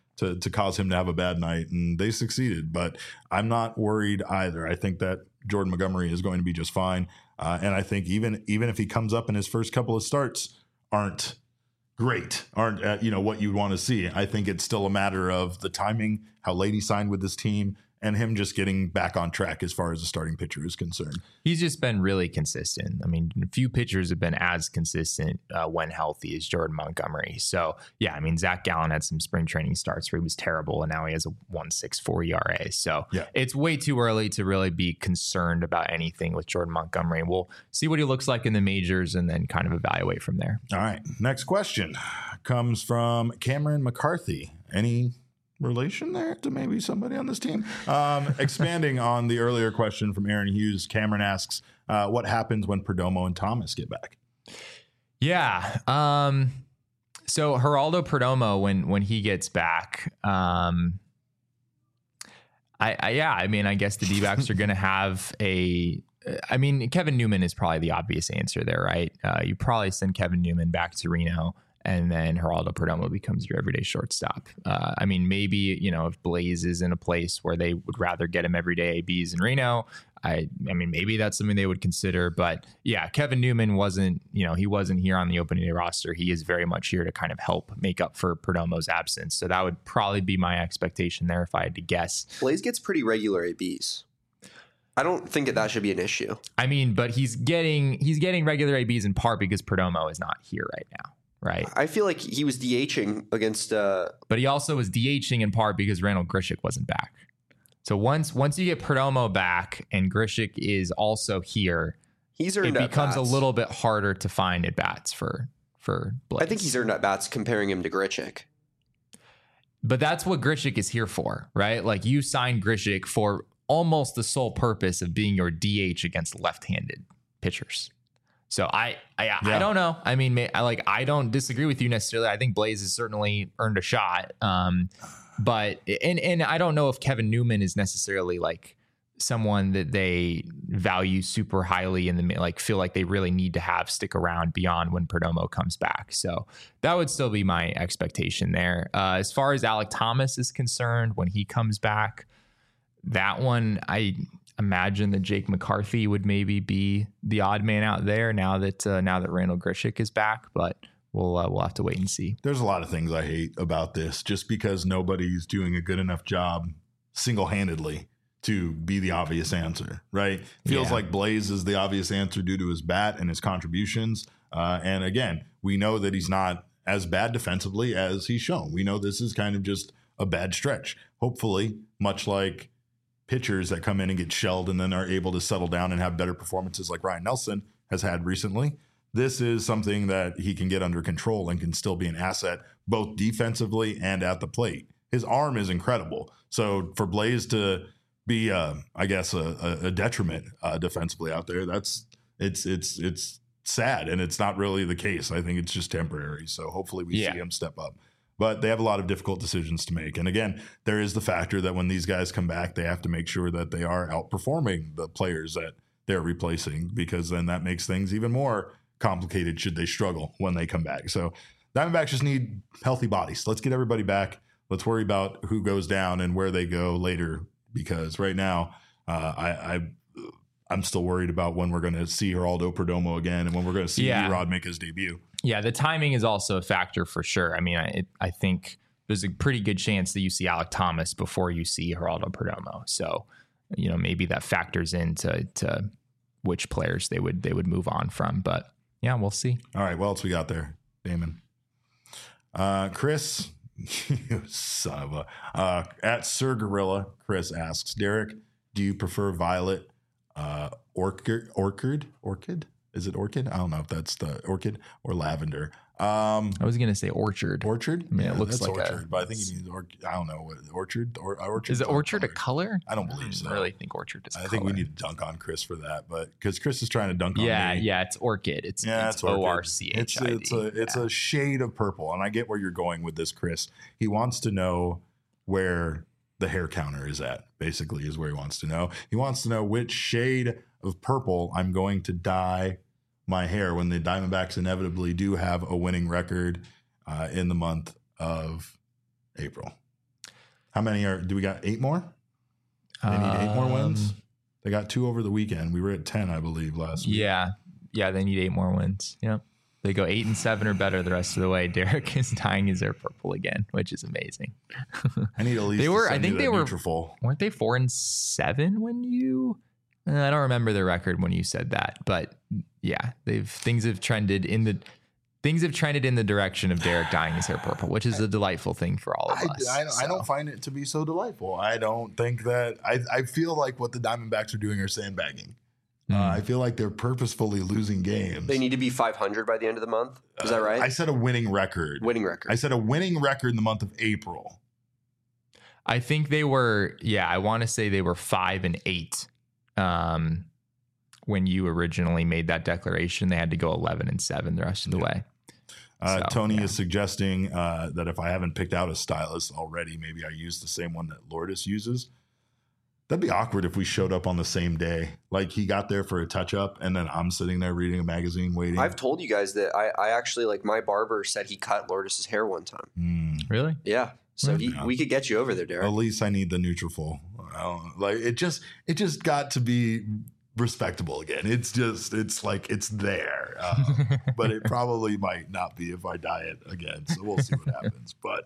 him to have a bad night, and they succeeded. But I'm not worried either. I think that Jordan Montgomery is going to be just fine, and I think even if he comes up and his first couple of starts aren't great, aren't what you'd want to see, I think it's still a matter of the timing, how late he signed with this team, and him just getting back on track as far as the starting pitcher is concerned.
He's just been really consistent. I mean, few pitchers have been as consistent when healthy as Jordan Montgomery. So, yeah, I mean, Zach Gallen had some spring training starts where he was terrible, and now he has a 1.64 ERA. So it's way too early to really be concerned about anything with Jordan Montgomery. We'll see what he looks like in the majors and then kind of evaluate from there.
All right. Next question comes from Cameron McCarthy. Any relation there to maybe somebody on this team? Expanding on the earlier question from Aaron Hughes, Cameron asks, what happens when Perdomo and Thomas get back?
Yeah. So Geraldo Perdomo, when he gets back, I mean, I guess the D-backs are going to have Kevin Newman is probably the obvious answer there, right? You probably send Kevin Newman back to Reno, and then Geraldo Perdomo becomes your everyday shortstop. Maybe, if Blaze is in a place where they would rather get him everyday ABs in Reno, maybe that's something they would consider. But yeah, Kevin Newman wasn't here on the opening day roster. He is very much here to kind of help make up for Perdomo's absence. So that would probably be my expectation there if I had to guess.
Blaze gets pretty regular ABs. I don't think that should be an issue.
But he's getting regular ABs in part because Perdomo is not here right now. Right.
I feel like he was DHing against.
But he also was DHing in part because Randall Grichuk wasn't back. So once you get Perdomo back and Grichuk is also here, it becomes a little bit harder to find at bats for Blaze.
I think he's earned at bats comparing him to Grichuk.
But that's what Grichuk is here for, right? Like you signed Grichuk for almost the sole purpose of being your DH against left-handed pitchers. So I don't know. I don't disagree with you necessarily. I think Blaze has certainly earned a shot. But I don't know if Kevin Newman is necessarily like someone that they value super highly and feel like they really need to have stick around beyond when Perdomo comes back. So that would still be my expectation there. As far as Alek Thomas is concerned, when he comes back, that one I imagine that Jake McCarthy would maybe be the odd man out there now that Randall Grichuk is back, but we'll have to wait and see.
There's a lot of things I hate about this, just because nobody's doing a good enough job single-handedly to be the obvious answer, right? Feels like Blaze is the obvious answer due to his bat and his contributions. And again, we know that he's not as bad defensively as he's shown. We know this is kind of just a bad stretch. Hopefully, much like pitchers that come in and get shelled and then are able to settle down and have better performances like Ryan Nelson has had recently, this is something that he can get under control and can still be an asset both defensively and at the plate. His arm is incredible. So for Blaze to be, a detriment defensively out there, it's sad, and it's not really the case. I think it's just temporary. So hopefully we see him step up. But they have a lot of difficult decisions to make. And again, there is the factor that when these guys come back, they have to make sure that they are outperforming the players that they're replacing, because then that makes things even more complicated should they struggle when they come back. So Diamondbacks just need healthy bodies. Let's get everybody back. Let's worry about who goes down and where they go later, because right now I'm still worried about when we're going to see Geraldo Perdomo again and when we're going to see Erod make his debut.
Yeah, the timing is also a factor for sure. I think there's a pretty good chance that you see Alek Thomas before you see Geraldo Perdomo. So, maybe that factors into which players they would move on from. But yeah, we'll see.
All right, what else we got there, Damon? Chris, you son of a... at Sir Gorilla, Chris asks, Derek, do you prefer violet, orchid? Is it orchid? I don't know if that's the orchid or lavender.
I was going to say orchard.
Orchard?
It looks like
orchard, but I think it means orchid. I don't know what orchard or orchard.
Is it orchard a color?
I don't believe so.
I really think orchard is.
I think we need to dunk on Chris for that, but because Chris is trying to dunk on me.
Yeah, it's orchid. It's ORCHID.
It's a shade of purple, and I get where you're going with this, Chris. He wants to know where the hair counter is at. Basically, is where he wants to know. He wants to know which shade of purple I'm going to dye my hair when the Diamondbacks inevitably do have a winning record in the month of April. How many do we got? 8 more? They need 8 more wins. They got 2 over the weekend. We were at 10, I believe, last week.
Yeah, they need 8 more wins. Yep. They go 8-7 or better the rest of the way. Derek is dyeing his hair purple again, which is amazing.
I need at least.
Weren't they 4-7 when you? I don't remember the record when you said that, but yeah, things have trended in the direction of Derek dyeing his hair purple, which is a delightful thing for all of us.
I don't find it to be so delightful. I don't think that. I feel like what the Diamondbacks are doing are sandbagging. I feel like they're purposefully losing games.
They need to be 500 by the end of the month. Is that right?
I said a winning record. I said a winning record in the month of April.
I think they were. Yeah, I want to say they were 5-8. When you originally made that declaration, they had to go 11-7 the rest of the way.
Tony is suggesting that if I haven't picked out a stylist already, maybe I use the same one that Lourdes uses. That'd be awkward if we showed up on the same day. Like he got there for a touch up and then I'm sitting there reading a magazine waiting.
I've told you guys that I actually, like, my barber said he cut Lourdes's hair one time.
Really?
Yeah. So we could get you over there, Derek.
At least I need the Nutrafol. Like it just got to be respectable again. It's like it's there, but it probably might not be if I diet again. So we'll see what happens. But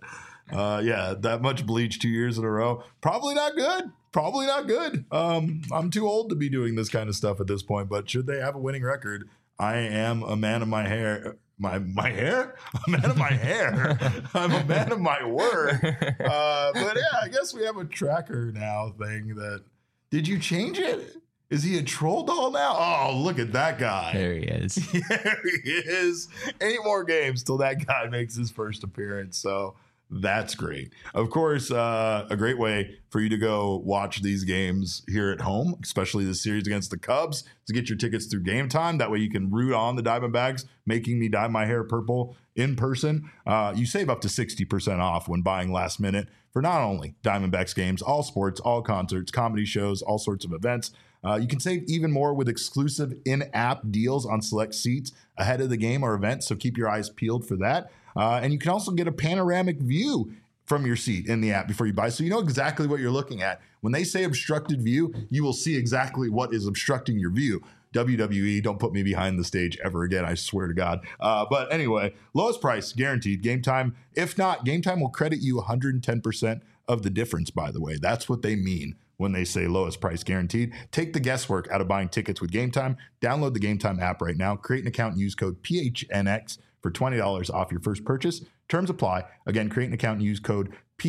that much bleach 2 years in a row, probably not good. Probably not good. I'm too old to be doing this kind of stuff at this point. But should they have a winning record, I am a man of my hair. My hair? A man of my hair. I'm a man of my word. But yeah, I guess we have a tracker now thing that. Did you change it? Is he a troll doll now? Oh, look at that guy.
There he is.
There he is. 8 more games till that guy makes his first appearance. So that's great. Of course, a great way for you to go watch these games here at home, especially the series against the Cubs, to get your tickets through Game Time. That way you can root on the Diamondbacks, making me dye my hair purple in person. You save up to 60% off when buying last minute for not only Diamondbacks games, all sports, all concerts, comedy shows, all sorts of events. You can save even more with exclusive in-app deals on select seats ahead of the game or event, so keep your eyes peeled for that. And you can also get a panoramic view from your seat in the app before you buy, so you know exactly what you're looking at. When they say obstructed view, you will see exactly what is obstructing your view. WWE, don't put me behind the stage ever again, I swear to God. But anyway, lowest price guaranteed. Game Time. If not, Game Time will credit you 110% of the difference, by the way. That's what they mean when they say lowest price guaranteed. Take the guesswork out of buying tickets with Game Time. Download the Game Time app right now. Create an account and use code PHNX for $20 off your first purchase. Terms apply. Again, create an account and use code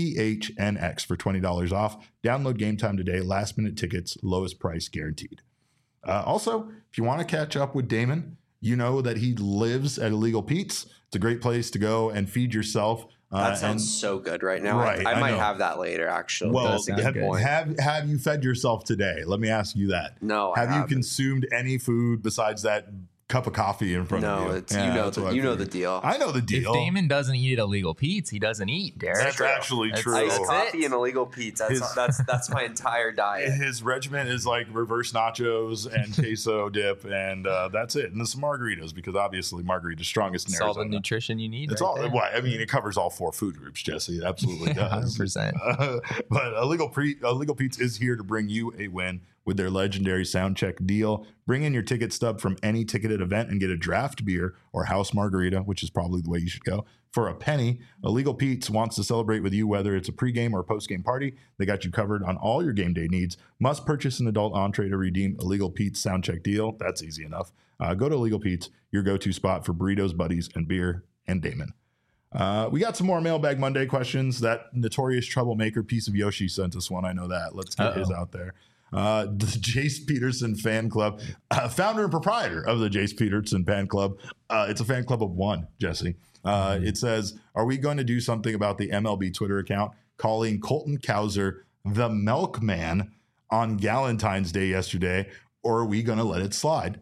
PHNX for $20 off. Download Game Time today. Last minute tickets, lowest price guaranteed. Also, if you want to catch up with Damon, you know that he lives at Illegal Pete's. It's a great place to go and feed yourself.
That sounds so good right now. Right, I might have that later, actually.
Well, have you fed yourself today? Let me ask you that.
No,
Have you consumed any food besides that cup of coffee in front of you?
No, you know the deal.
I know the deal.
If Damon doesn't eat at Illegal Pete's, he doesn't eat, Derek.
That's actually true.
Iced coffee and Illegal Pete's. That's my entire diet.
His regimen is like reverse nachos and queso dip, and that's it. And some margaritas, because obviously margarita's strongest in Arizona.
It's all the nutrition you need.
It's all. Well, I mean, it covers all 4 food groups, Jesse. It absolutely does.
100%.
But Illegal Pete's is here to bring you a win with their legendary sound check deal. Bring in your ticket stub from any ticketed event and get a draft beer or house margarita, which is probably the way you should go, for a penny. Illegal Pete's wants to celebrate with you, whether it's a pregame or postgame party. They got you covered on all your game day needs. Must purchase an adult entree to redeem Illegal Pete's sound check deal. That's easy enough. Go to Illegal Pete's, your go-to spot for burritos, buddies, and beer, and Damon. We got some more Mailbag Monday questions. That notorious troublemaker piece of Yoshi sent us one. I know that. Let's get his out there. The Jace Peterson fan club, founder and proprietor of the Jace Peterson fan club. It's a fan club of 1, Jesse. It says, are we going to do something about the MLB Twitter account calling Colton Cowser the Milkman on Galentine's Day yesterday, or are we going to let it slide?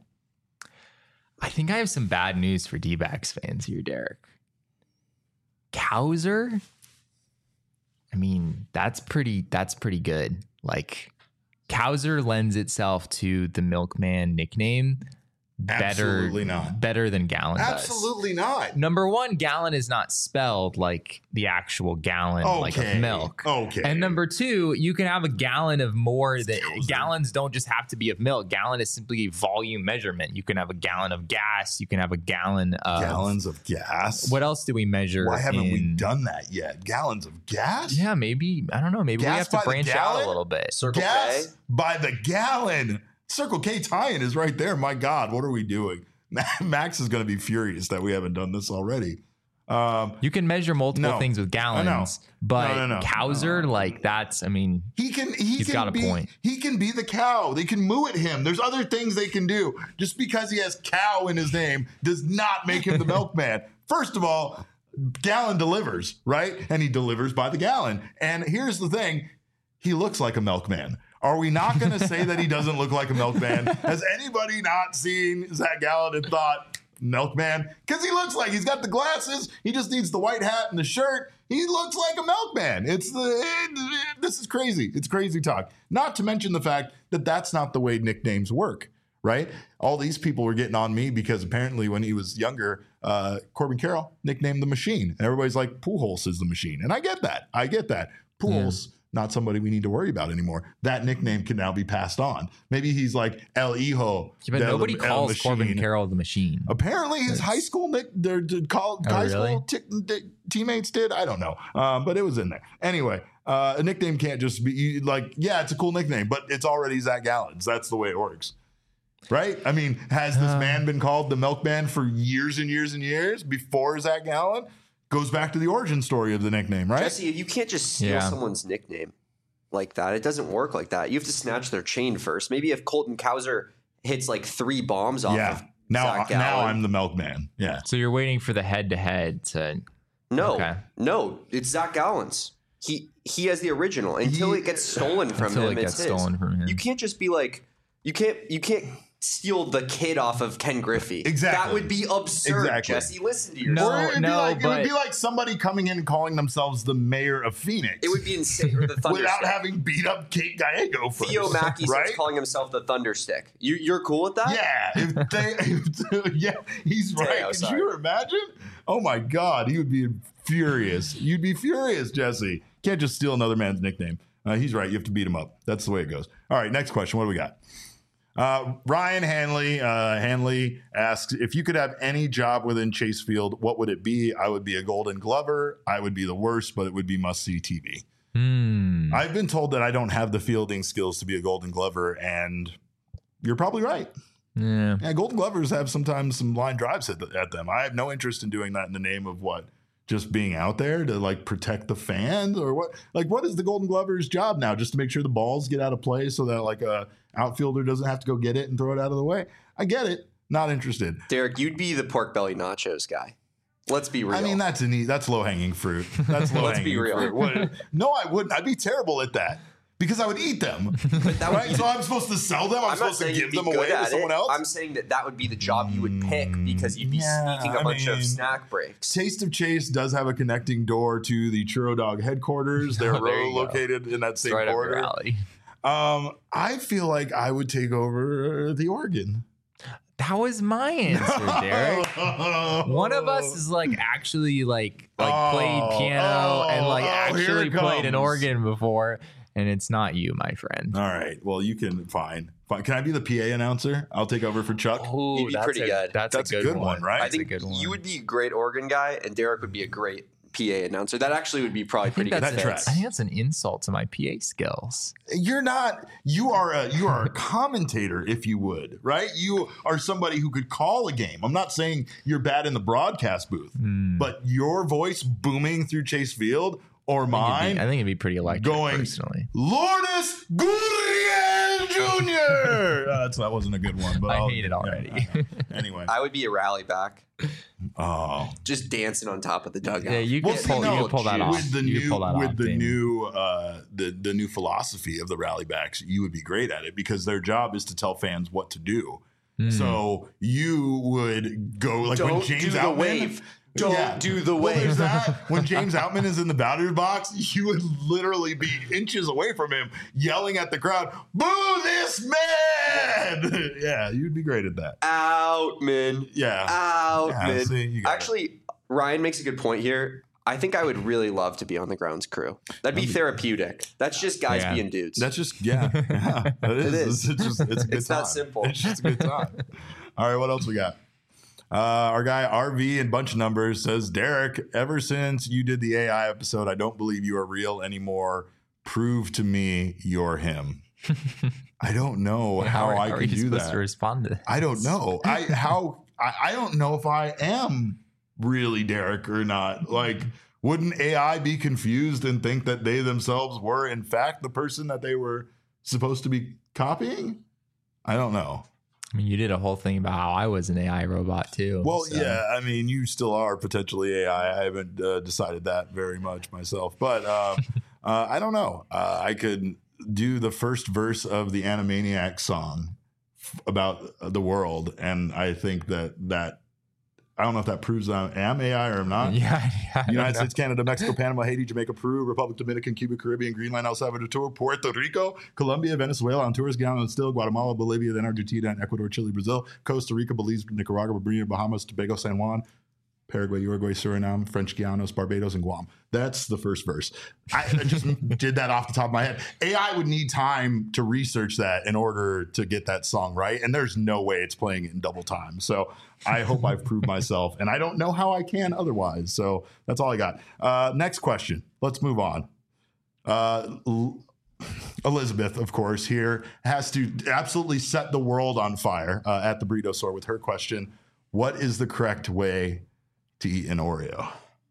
I think I have some bad news for D-backs fans here, Derek. Cowser? I mean, that's pretty good. Like, Cowser lends itself to the Milkman nickname better than Gallon does.
Absolutely not.
Number one, Gallon is not spelled like the actual gallon like of milk.
Okay.
And number two, you can have a gallon of more that gallons don't just have to be of milk. Gallon is simply a volume measurement. You can have a gallon of gas. You can have a gallon of
gallons of gas.
What else do we measure?
Why haven't we done that yet? Gallons of gas?
Yeah, maybe. I don't know. Maybe gas we have to branch out a little bit.
Circle
gas
K
by the gallon. Circle K tie-in is right there. My God, what are we doing? Max is going to be furious that we haven't done this already.
You can measure multiple things with gallons, but Cowser, like that's, I mean, he's got a point.
He can be the cow. They can moo at him. There's other things they can do. Just because he has cow in his name does not make him the milkman. First of all, Gallon delivers, right? And he delivers by the gallon. And here's the thing. He looks like a milkman. Are we not going to say that he doesn't look like a milkman? Has anybody not seen Zach Gallen and thought, Milkman, because he looks like he's got the glasses. He just needs the white hat and the shirt. He looks like a milkman. This is crazy. It's crazy talk. Not to mention the fact that that's not the way nicknames work, right? All these people were getting on me because apparently when he was younger, Corbin Carroll nicknamed the Machine. And everybody's like, Pujols is the Machine. And I get that. Pujols, not somebody we need to worry about anymore. That nickname can now be passed on. Maybe he's like El Hijo.
Yeah, but nobody calls Corbin Carroll the Machine.
Apparently his high school school teammates did. I don't know. But it was in there. Anyway, a nickname can't just be like, yeah, it's a cool nickname, but it's already Zach Gallen's. That's the way it works. Right? I mean, has this man been called the Milkman for years and years and years before Zach Gallen? Goes back to the origin story of the nickname, right?
Jesse, you can't just steal someone's nickname like that. It doesn't work like that. You have to snatch their chain first. Maybe if Colton Cowser hits like 3 bombs off of Zach Gallen.
Now I'm the Milkman. Yeah.
So you're waiting for the head-to-head to...
No, it's Zach Gallen's. He has the original. Until it gets stolen from him, it's his. You can't just be like... You can't steal the kid off of Ken Griffey.
Exactly.
That would be absurd, Jesse. Listen to yourself.
It would be like somebody coming in and calling themselves the mayor of Phoenix.
It would be insane. Or the Thunderstick.
Without having beat up Kate Gallego first.
Theo Mackey starts calling himself the Thunderstick. You're cool with that?
Yeah. He's right. Could you imagine? Oh my God. He would be furious. You'd be furious, Jesse. Can't just steal another man's nickname. He's right. You have to beat him up. That's the way it goes. All right. Next question. What do we got? Ryan Hanley asks, if you could have any job within Chase Field, what would it be? I would be a Golden Glover. I would be the worst, but it would be must-see TV. I've been told that I don't have the fielding skills to be a Golden Glover, and you're probably right. Yeah, Golden Glovers have sometimes some line drives at them. I have no interest in doing that in the name of what? Just being out there to like protect the fans, or what? Like, what is the Golden Glover's job now? Just to make sure the balls get out of play so that like a outfielder doesn't have to go get it and throw it out of the way. I get it. Not interested.
Derek, you'd be the pork belly nachos guy. Let's be real.
I mean, that's low hanging fruit. That's low hanging fruit. Let's be real. No, I wouldn't. I'd be terrible at that. Because I would eat them, right? So I'm supposed to sell them. I'm supposed to give them away to someone else.
I'm saying that would be the job you would pick because you'd be sneaking a bunch of snack breaks.
Taste of Chase does have a connecting door to the Churro Dog headquarters. They're located in that same corridor. I feel like I would take over the organ.
That was my answer, Derek. One of us is like actually like played piano and like actually played an organ before. And it's not you, my friend.
All right. Well, you can. Fine. Can I be the PA announcer? I'll take over for Chuck.
Oh, you'd be pretty good.
That's a good one,
right?
I think you would be a great organ guy, and Derek would be a great PA announcer. That actually would be probably pretty good.
I think that's an insult to my PA skills.
You're not. You are a commentator, if you would, right? You are somebody who could call a game. I'm not saying you're bad in the broadcast booth, but your voice booming through Chase Field. Or mine.
I think it'd be pretty electric, personally.
Lourdes Gurriel Jr. That wasn't a good one, but
I hate it already.
Anyway,
I would be a rally back. Oh, just dancing on top of the dugout.
Yeah, you can pull that off.
With the new philosophy of the rally backs, you would be great at it because their job is to tell fans what to do. So you would go like when James Outman.
Don't do the wave.
When James Outman is in the batter's box, you would literally be inches away from him, yelling at the crowd, "Boo this man!" Yeah, you'd be great at that.
Outman.
Yeah.
Outman. Actually, Ryan makes a good point here. I think I would really love to be on the grounds crew. That'd be therapeutic. That's just guys being dudes.
That's just, it is. It's a good time.
It's that simple.
It's just a good time. All right, what else we got? Our guy RV and bunch of numbers says, Derek, ever since you did the AI episode, I don't believe you are real anymore. Prove to me you're him. I don't know how I could do that.
To respond to this?
I don't know. I don't know if I am really Derek or not. Like, wouldn't AI be confused and think that they themselves were in fact the person that they were supposed to be copying? I don't know.
I mean, you did a whole thing about how I was an AI robot too.
Well, so. Yeah, I mean, you still are potentially AI. I haven't decided that very much myself, but I don't know. I could do the first verse of the Animaniacs song about the world, and I think that I don't know if that proves I am AI or I'm not.
Yeah.
United States, Canada, Mexico, Panama, Haiti, Jamaica, Peru, Republic Dominican, Cuba, Caribbean, Greenland, El Salvador, Puerto Rico, Colombia, Venezuela, Honduras, Guyana, and still Guatemala, Bolivia, then Argentina, and Ecuador, Chile, Brazil, Costa Rica, Belize, Nicaragua, Bermuda, Bahamas, Tobago, San Juan, Paraguay, Uruguay, Suriname, French Guianas, Barbados, and Guam. That's the first verse. I just did that off the top of my head. AI would need time to research that in order to get that song right. And there's no way it's playing it in double time. So I hope I've proved myself. And I don't know how I can otherwise. So that's all I got. Next question. Let's move on. Elizabeth, of course, here has to absolutely set the world on fire at the Burrito Store with her question. What is the correct way to eat an Oreo?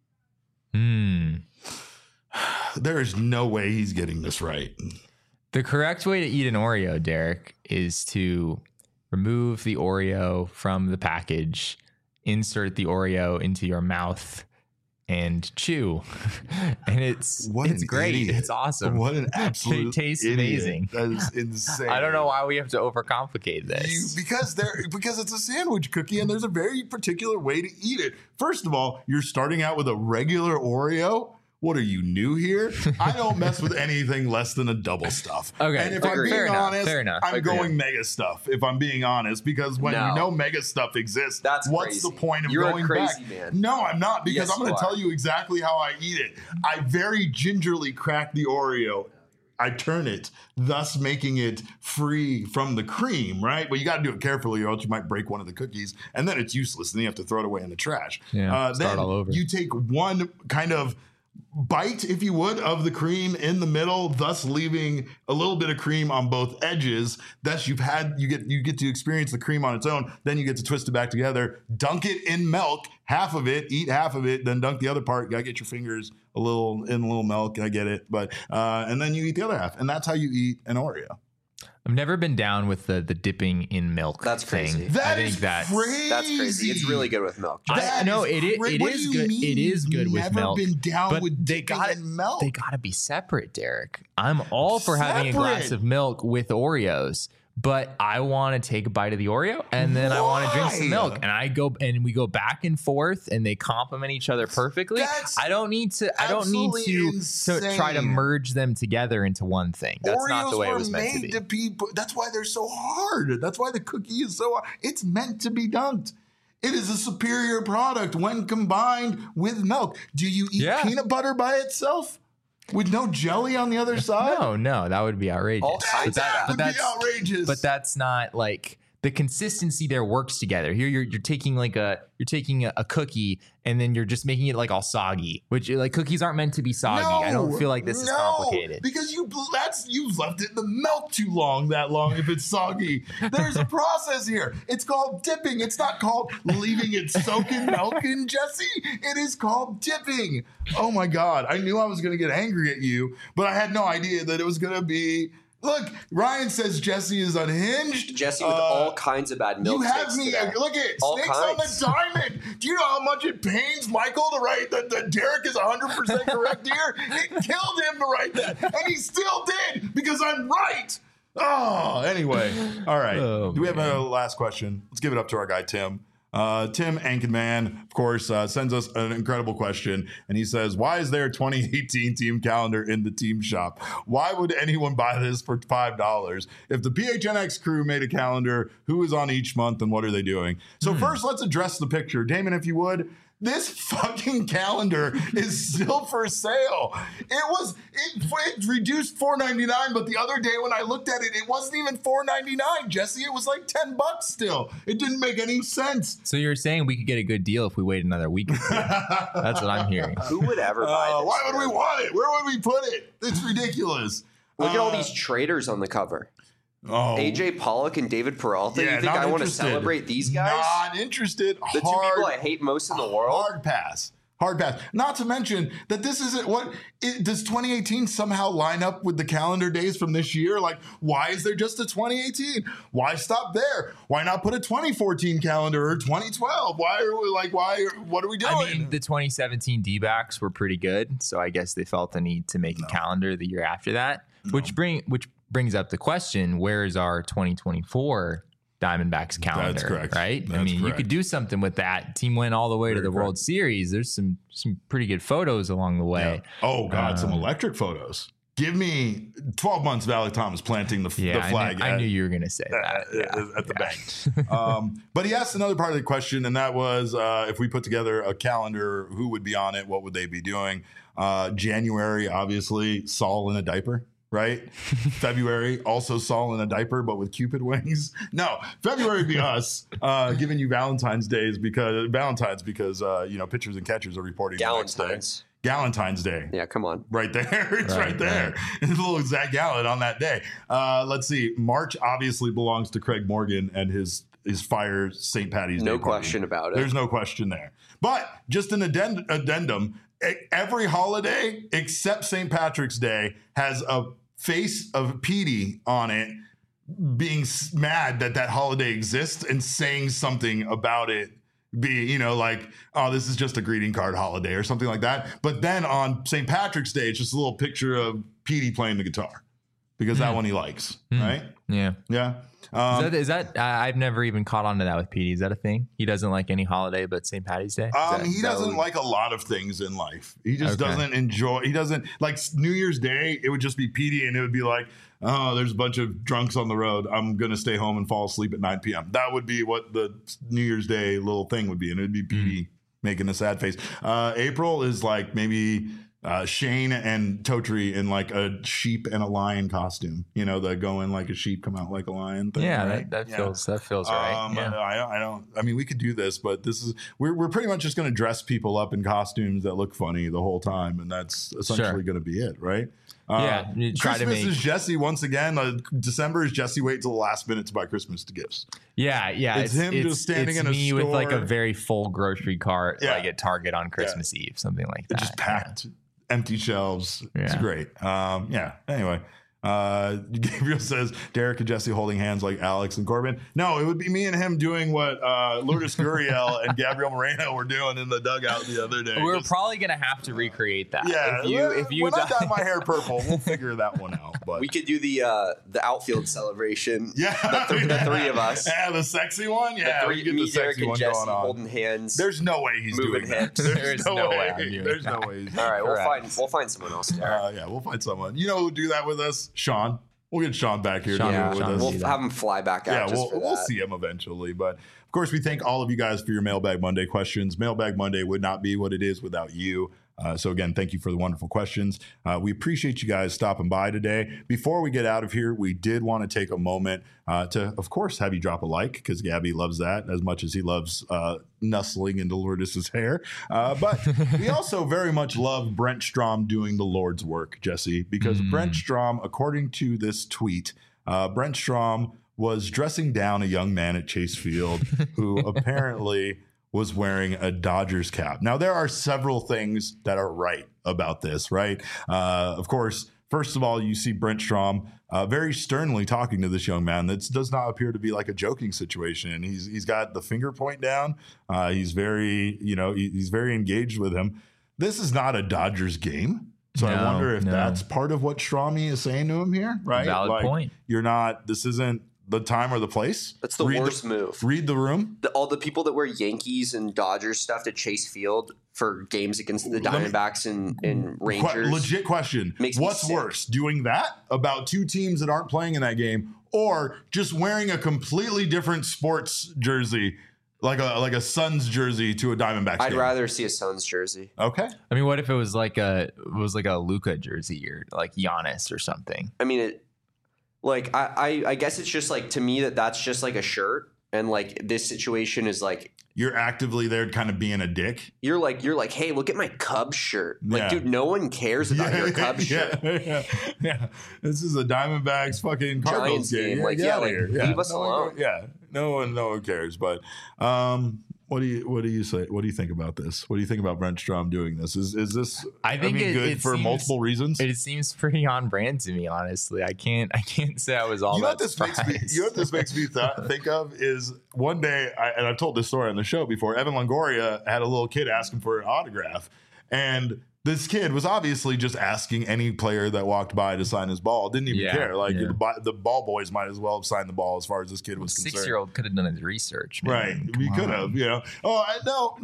There is no way he's getting this right.
The correct way to eat an Oreo, Derek, is to remove the Oreo from the package, insert the Oreo into your mouth, and chew. And it's great. Idiot. It's awesome.
What an absolute
It tastes
idiot.
amazing.
That is insane.
I don't know why we have to overcomplicate this.
Because it's a sandwich cookie and there's a very particular way to eat it. First of all, you're starting out with a regular Oreo. What are you, new here? I don't mess with anything less than a double stuff.
Okay,
and if I'm being honest, I'm going mega stuff. If I'm being honest, because when you know mega stuff exists, what's the point of going back?
Man.
No, I'm not, because I'm going to tell you exactly how I eat it. I very gingerly crack the Oreo. I turn it, thus making it free from the cream, right? But you got to do it carefully or else you might break one of the cookies, and then it's useless, and then you have to throw it away in the trash.
Yeah, start all over.
You take one kind of bite, if you would, of the cream in the middle, thus leaving a little bit of cream on both edges. Thus you get to experience the cream on its own. Then you get to twist it back together, dunk it in milk, half of it, eat half of it, then dunk the other part. You gotta get your fingers a little milk. I get it, but and then you eat the other half, and that's how you eat an Oreo.
I've never been down with the dipping in milk.
That's crazy.
Thing.
That's crazy.
That's crazy. It's really good with milk.
I know it is good. It is good with milk.
Never been down
but
with
they got
milk.
They got to be separate, Derek. I'm all for having a glass of milk with Oreos, but I want to take a bite of the Oreo and then I want to drink some milk, and we go back and forth and they complement each other perfectly. I don't need to try to merge them together into one thing. That's
Oreos
not the way it was meant to be.
That's why they're so hard. That's why the cookie is so hard. It's meant to be dunked. It is a superior product when combined with milk. Do you eat peanut butter by itself? With no jelly on the other side?
No, that would be outrageous.
That would be outrageous.
But that's not like the consistency there works together. Here you're taking a cookie and then you're just making it like all soggy, which like cookies aren't meant to be soggy. I don't feel like this is complicated.
Because you've left it in the milk too long if it's soggy. There's a process here. It's called dipping. It's not called leaving it soak in milk, and Jesse. It is called dipping. Oh my God. I knew I was going to get angry at you, but I had no idea that it was going to be. Look, Ryan says Jesse is unhinged.
Jesse with all kinds of bad milk.
You have me. Today. Look at all Snakes kinds. On the Diamond. Do you know how much it pains Michael to write that Derek is 100% correct here? It killed him to write that, and he still did because I'm right. Oh, anyway. All right. Do we have a last question? Let's give it up to our guy Tim. Tim Ankenman, of course, sends us an incredible question, and he says, why is there a 2018 team calendar in the team shop? Why would anyone buy this for $5? If the PHNX crew made a calendar, who is on each month and what are they doing? So first, let's address the picture. Damon, if you would. This fucking calendar is still for sale. It reduced $4.99, but the other day when I looked at it, it wasn't even $4.99, Jesse. It was like $10 still. It didn't make any sense.
So you're saying we could get a good deal if we wait another week or two. That's what I'm hearing.
Who would ever buy this?
Why would we want it? Where would we put it? It's ridiculous.
Look at all these traders on the cover. AJ Pollock and David Peralta. You think I want to celebrate these guys?
Not interested.
The two people I hate most in the world.
Hard pass. Not to mention that this isn't does 2018 somehow line up with the calendar days from this year? Like, why is there just a 2018? Why stop there? Why not put a 2014 calendar or 2012? What are we doing?
I mean, the 2017 D-backs were pretty good, so I guess they felt the need to make a calendar the year after that, which brings up the question, where is our 2024 Diamondbacks calendar.
That's correct.
Right?
That's correct.
You could do something with that. Team went all the way to the World Series. There's some pretty good photos along the way.
Yeah. Oh, God, some electric photos. Give me 12 months of Alec Thomas planting the flag.
I knew you were going to say that.
At the bank. But he asked another part of the question, and that was if we put together a calendar, who would be on it? What would they be doing? January, obviously, Saul in a diaper. Right? February, also Saul in a diaper, but with Cupid wings. No, February would be us giving you Valentine's because pitchers and catchers are reporting Galentine's Day.
Yeah, come on.
Right there. It's right there. It's a little Zach Gallen on that day. Let's see. March obviously belongs to Craig Morgan and his fire St. Patty's Day
No
party.
question about it.
There's no question there. But just an addendum, every holiday except St. Patrick's Day has a face of Petey on it being mad that holiday exists and saying something about it. This is just a greeting card holiday or something like that. But then on St. Patrick's Day, it's just a little picture of Petey playing the guitar because that one he likes, right?
Yeah.
Yeah.
Is that I've never even caught on to that with Petey. Is that a thing? He doesn't like any holiday but St. Patty's Day?
He doesn't like a lot of things in life. He just doesn't enjoy. He doesn't like New Year's Day. It would just be Petey and it would be like, oh, there's a bunch of drunks on the road. I'm going to stay home and fall asleep at 9 p.m. That would be what the New Year's Day little thing would be. And it would be Petey making a sad face. April is like maybe Shane and Totri in like a sheep and a lion costume. They go in like a sheep, come out like a lion thing.
Yeah,
right?
that feels right.
I mean, we could do this, but we're pretty much just going to dress people up in costumes that look funny the whole time, and that's essentially going to be it, right? Christmas is Jesse once again. December is Jesse wait till the last minute to buy Christmas gifts.
Yeah.
It's him just standing in a store
with like a very full grocery cart, like at Target on Christmas Eve, something like that.
Just packed, empty shelves. It's great. Anyway. Gabriel says Derek and Jesse holding hands like Alex and Corbin. No, it would be me and him doing what Lourdes Gurriel and Gabriel Moreno were doing in the dugout the other day.
We're probably gonna have to recreate that.
Yeah, if you when I dye my hair purple, we'll figure that one out. But
we could do the outfield celebration.
Yeah,
the three of us.
Yeah, the sexy one. Yeah,
we get the sexy one going on. Holding hands.
There's no way he's moving hips. There's no way. There's no way.
All right, we'll find someone else.
Yeah, we'll find someone. You know who'll do that with us? Sean. We'll get Sean back here.
We'll have him fly back out.
Yeah, we'll see him eventually. But of course, we thank all of you guys for your Mailbag Monday questions. Mailbag Monday would not be what it is without you. So again, thank you for the wonderful questions. We appreciate you guys stopping by today. Before we get out of here, we did want to take a moment to, of course, have you drop a like, because Gabby loves that as much as he loves nuzzling into Lourdes' hair. But we also very much love Brent Strom doing the Lord's work, Jesse, because Brent Strom, according to this tweet, Brent Strom was dressing down a young man at Chase Field who apparently was wearing a Dodgers cap. Now, there are several things that are right about this, right? Of course, first of all, you see Brent Strom very sternly talking to this young man. That does not appear to be like a joking situation. He's got the finger point down. He's very, he's very engaged with him. This is not a Dodgers game. So I wonder if that's part of what Stromy is saying to him here, right?
Valid point.
This isn't the time or the place.
That's the worst move.
Read the room.
All the people that wear Yankees and Dodgers stuff to Chase Field for games against the Diamondbacks and Rangers.
Legit question. What's worse, doing that about two teams that aren't playing in that game, or just wearing a completely different sports jersey, like a Suns jersey to a Diamondbacks game?
I'd rather see a Suns jersey.
Okay.
I mean, what if it was like a Luka jersey or like Giannis or something?
I mean, I guess it's just like, to me, that's just like a shirt, and like this situation is like
you're actively there kind of being a dick.
You're like, hey, look at my Cubs shirt. Like, dude, no one cares about your Cubs shirt.
Yeah. This is a Diamondbacks fucking Cardinals game.
Like, leave us alone.
No one cares. But what do you say? What do you think about this? What do you think about Brent Strom doing this? Is this?
I think
good for multiple reasons.
It seems pretty on brand to me, honestly. I can't say I was all that surprised.
You know what this makes me think of is one day, and I've told this story on the show before. Evan Longoria had a little kid ask him for an autograph, and This kid was obviously just asking any player that walked by to sign his ball. Didn't even care. Like the ball boys might as well have signed the ball as far as this kid was concerned.
6-year-old could have done his research. Man.
Right. We could have, Oh,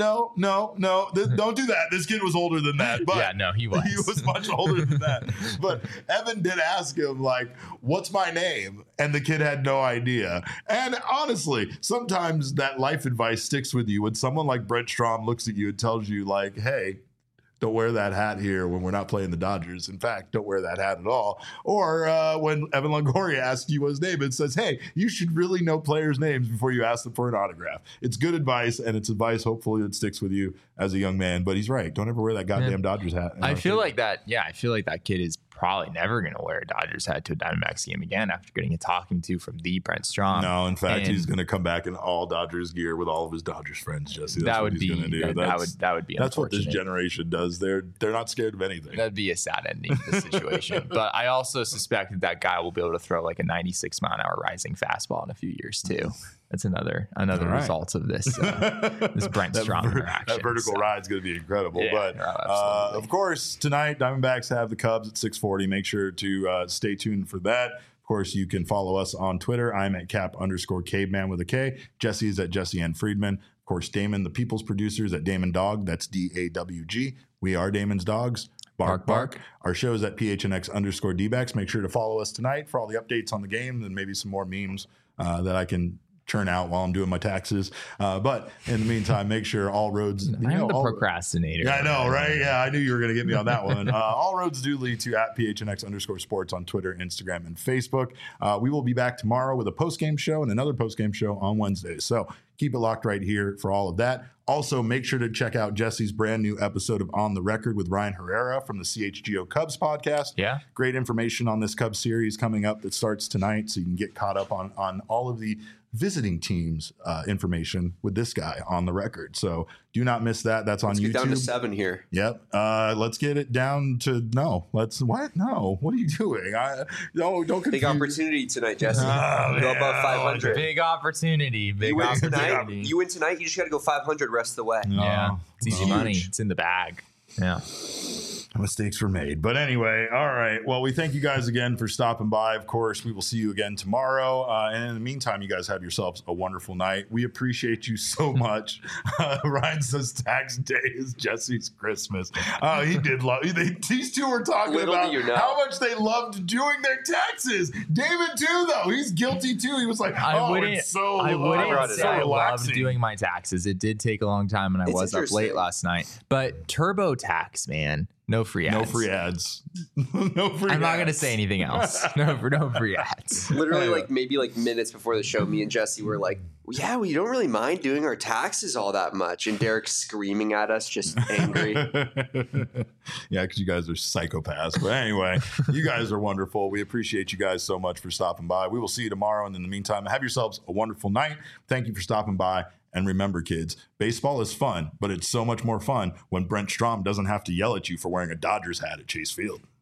no. Don't do that. This kid was older than that. But
yeah, no, he was.
He was much older than that. But Evan did ask him, like, what's my name? And the kid had no idea. And honestly, sometimes that life advice sticks with you when someone like Brent Strom looks at you and tells you, like, hey, don't wear that hat here when we're not playing the Dodgers. In fact, don't wear that hat at all. Or when Evan Longoria asks you what his name is, says, hey, you should really know players' names before you ask them for an autograph. It's good advice, and it's advice hopefully that sticks with you as a young man. But he's right. Don't ever wear that goddamn Dodgers hat.
I feel like that kid is probably never going to wear a Dodgers hat to a Diamondbacks game again after getting a talking to from the Brent Strom.
No, in fact, he's going to come back in all Dodgers gear with all of his Dodgers friends, Jesse. That's what he's going to do.
That would be
That's what this generation does. They're not scared of anything.
That'd be a sad ending to the situation. But I also suspect that guy will be able to throw like a 96 mile an hour rising fastball in a few years too. That's another result of this this Brent Strom interaction.
That vertical ride's going to be incredible. Yeah, but of course, tonight Diamondbacks have the Cubs at 6:40. Make sure to stay tuned for that. Of course, you can follow us on Twitter. I'm at cap_caveman with a K. Jesse is at Jesse N. Friedman. Of course, Damon, the People's Producer, is at Damon Dog. That's DAWG. We are Damon's Dogs. Bark, bark. Our show is at PHNX_DBacks. Make sure to follow us tonight for all the updates on the game and maybe some more memes that I can churn out while I'm doing my taxes. But in the meantime, make sure all roads...
I'm the procrastinator.
Yeah, I know, right? Yeah, I knew you were going to get me on that one. All roads do lead to at PHNX_sports on Twitter, Instagram, and Facebook. We will be back tomorrow with a post-game show and another post-game show on Wednesday. So keep it locked right here for all of that. Also, make sure to check out Jesse's brand new episode of On the Record with Ryan Herrera from the CHGO Cubs podcast.
Yeah.
Great information on this Cubs series coming up that starts tonight, so you can get caught up on all of the visiting teams information with this guy On the Record. So do not miss that. That's on YouTube.
Let's get down to 7 here.
Yep. Let's get it down to what? No. What are you doing? Don't confuse.
Big opportunity tonight, Jesse. Go above 500.
Big opportunity.
You win tonight. You just got to go 500 rest of the way.
Yeah. It's easy money. It's in the bag. Yeah.
Mistakes were made. But anyway, all right. Well, we thank you guys again for stopping by. Of course, we will see you again tomorrow. And in the meantime, you guys have yourselves a wonderful night. We appreciate you so much. Ryan says tax day is Jesse's Christmas. He did love these two were talking about how much they loved doing their taxes. David too, though. He's guilty too. He was like,
I wouldn't say I loved doing my taxes. It did take a long time and I was up late last night. But TurboTax, man. No free ads.
No free ads. No free
I'm not going to say anything else. No free ads.
Literally, maybe minutes before the show, me and Jesse were like, yeah, we don't really mind doing our taxes all that much. And Derek's screaming at us, just angry.
Yeah, because you guys are psychopaths. But anyway, you guys are wonderful. We appreciate you guys so much for stopping by. We will see you tomorrow. And in the meantime, have yourselves a wonderful night. Thank you for stopping by. And remember, kids, baseball is fun, but it's so much more fun when Brent Strom doesn't have to yell at you for wearing a Dodgers hat at Chase Field.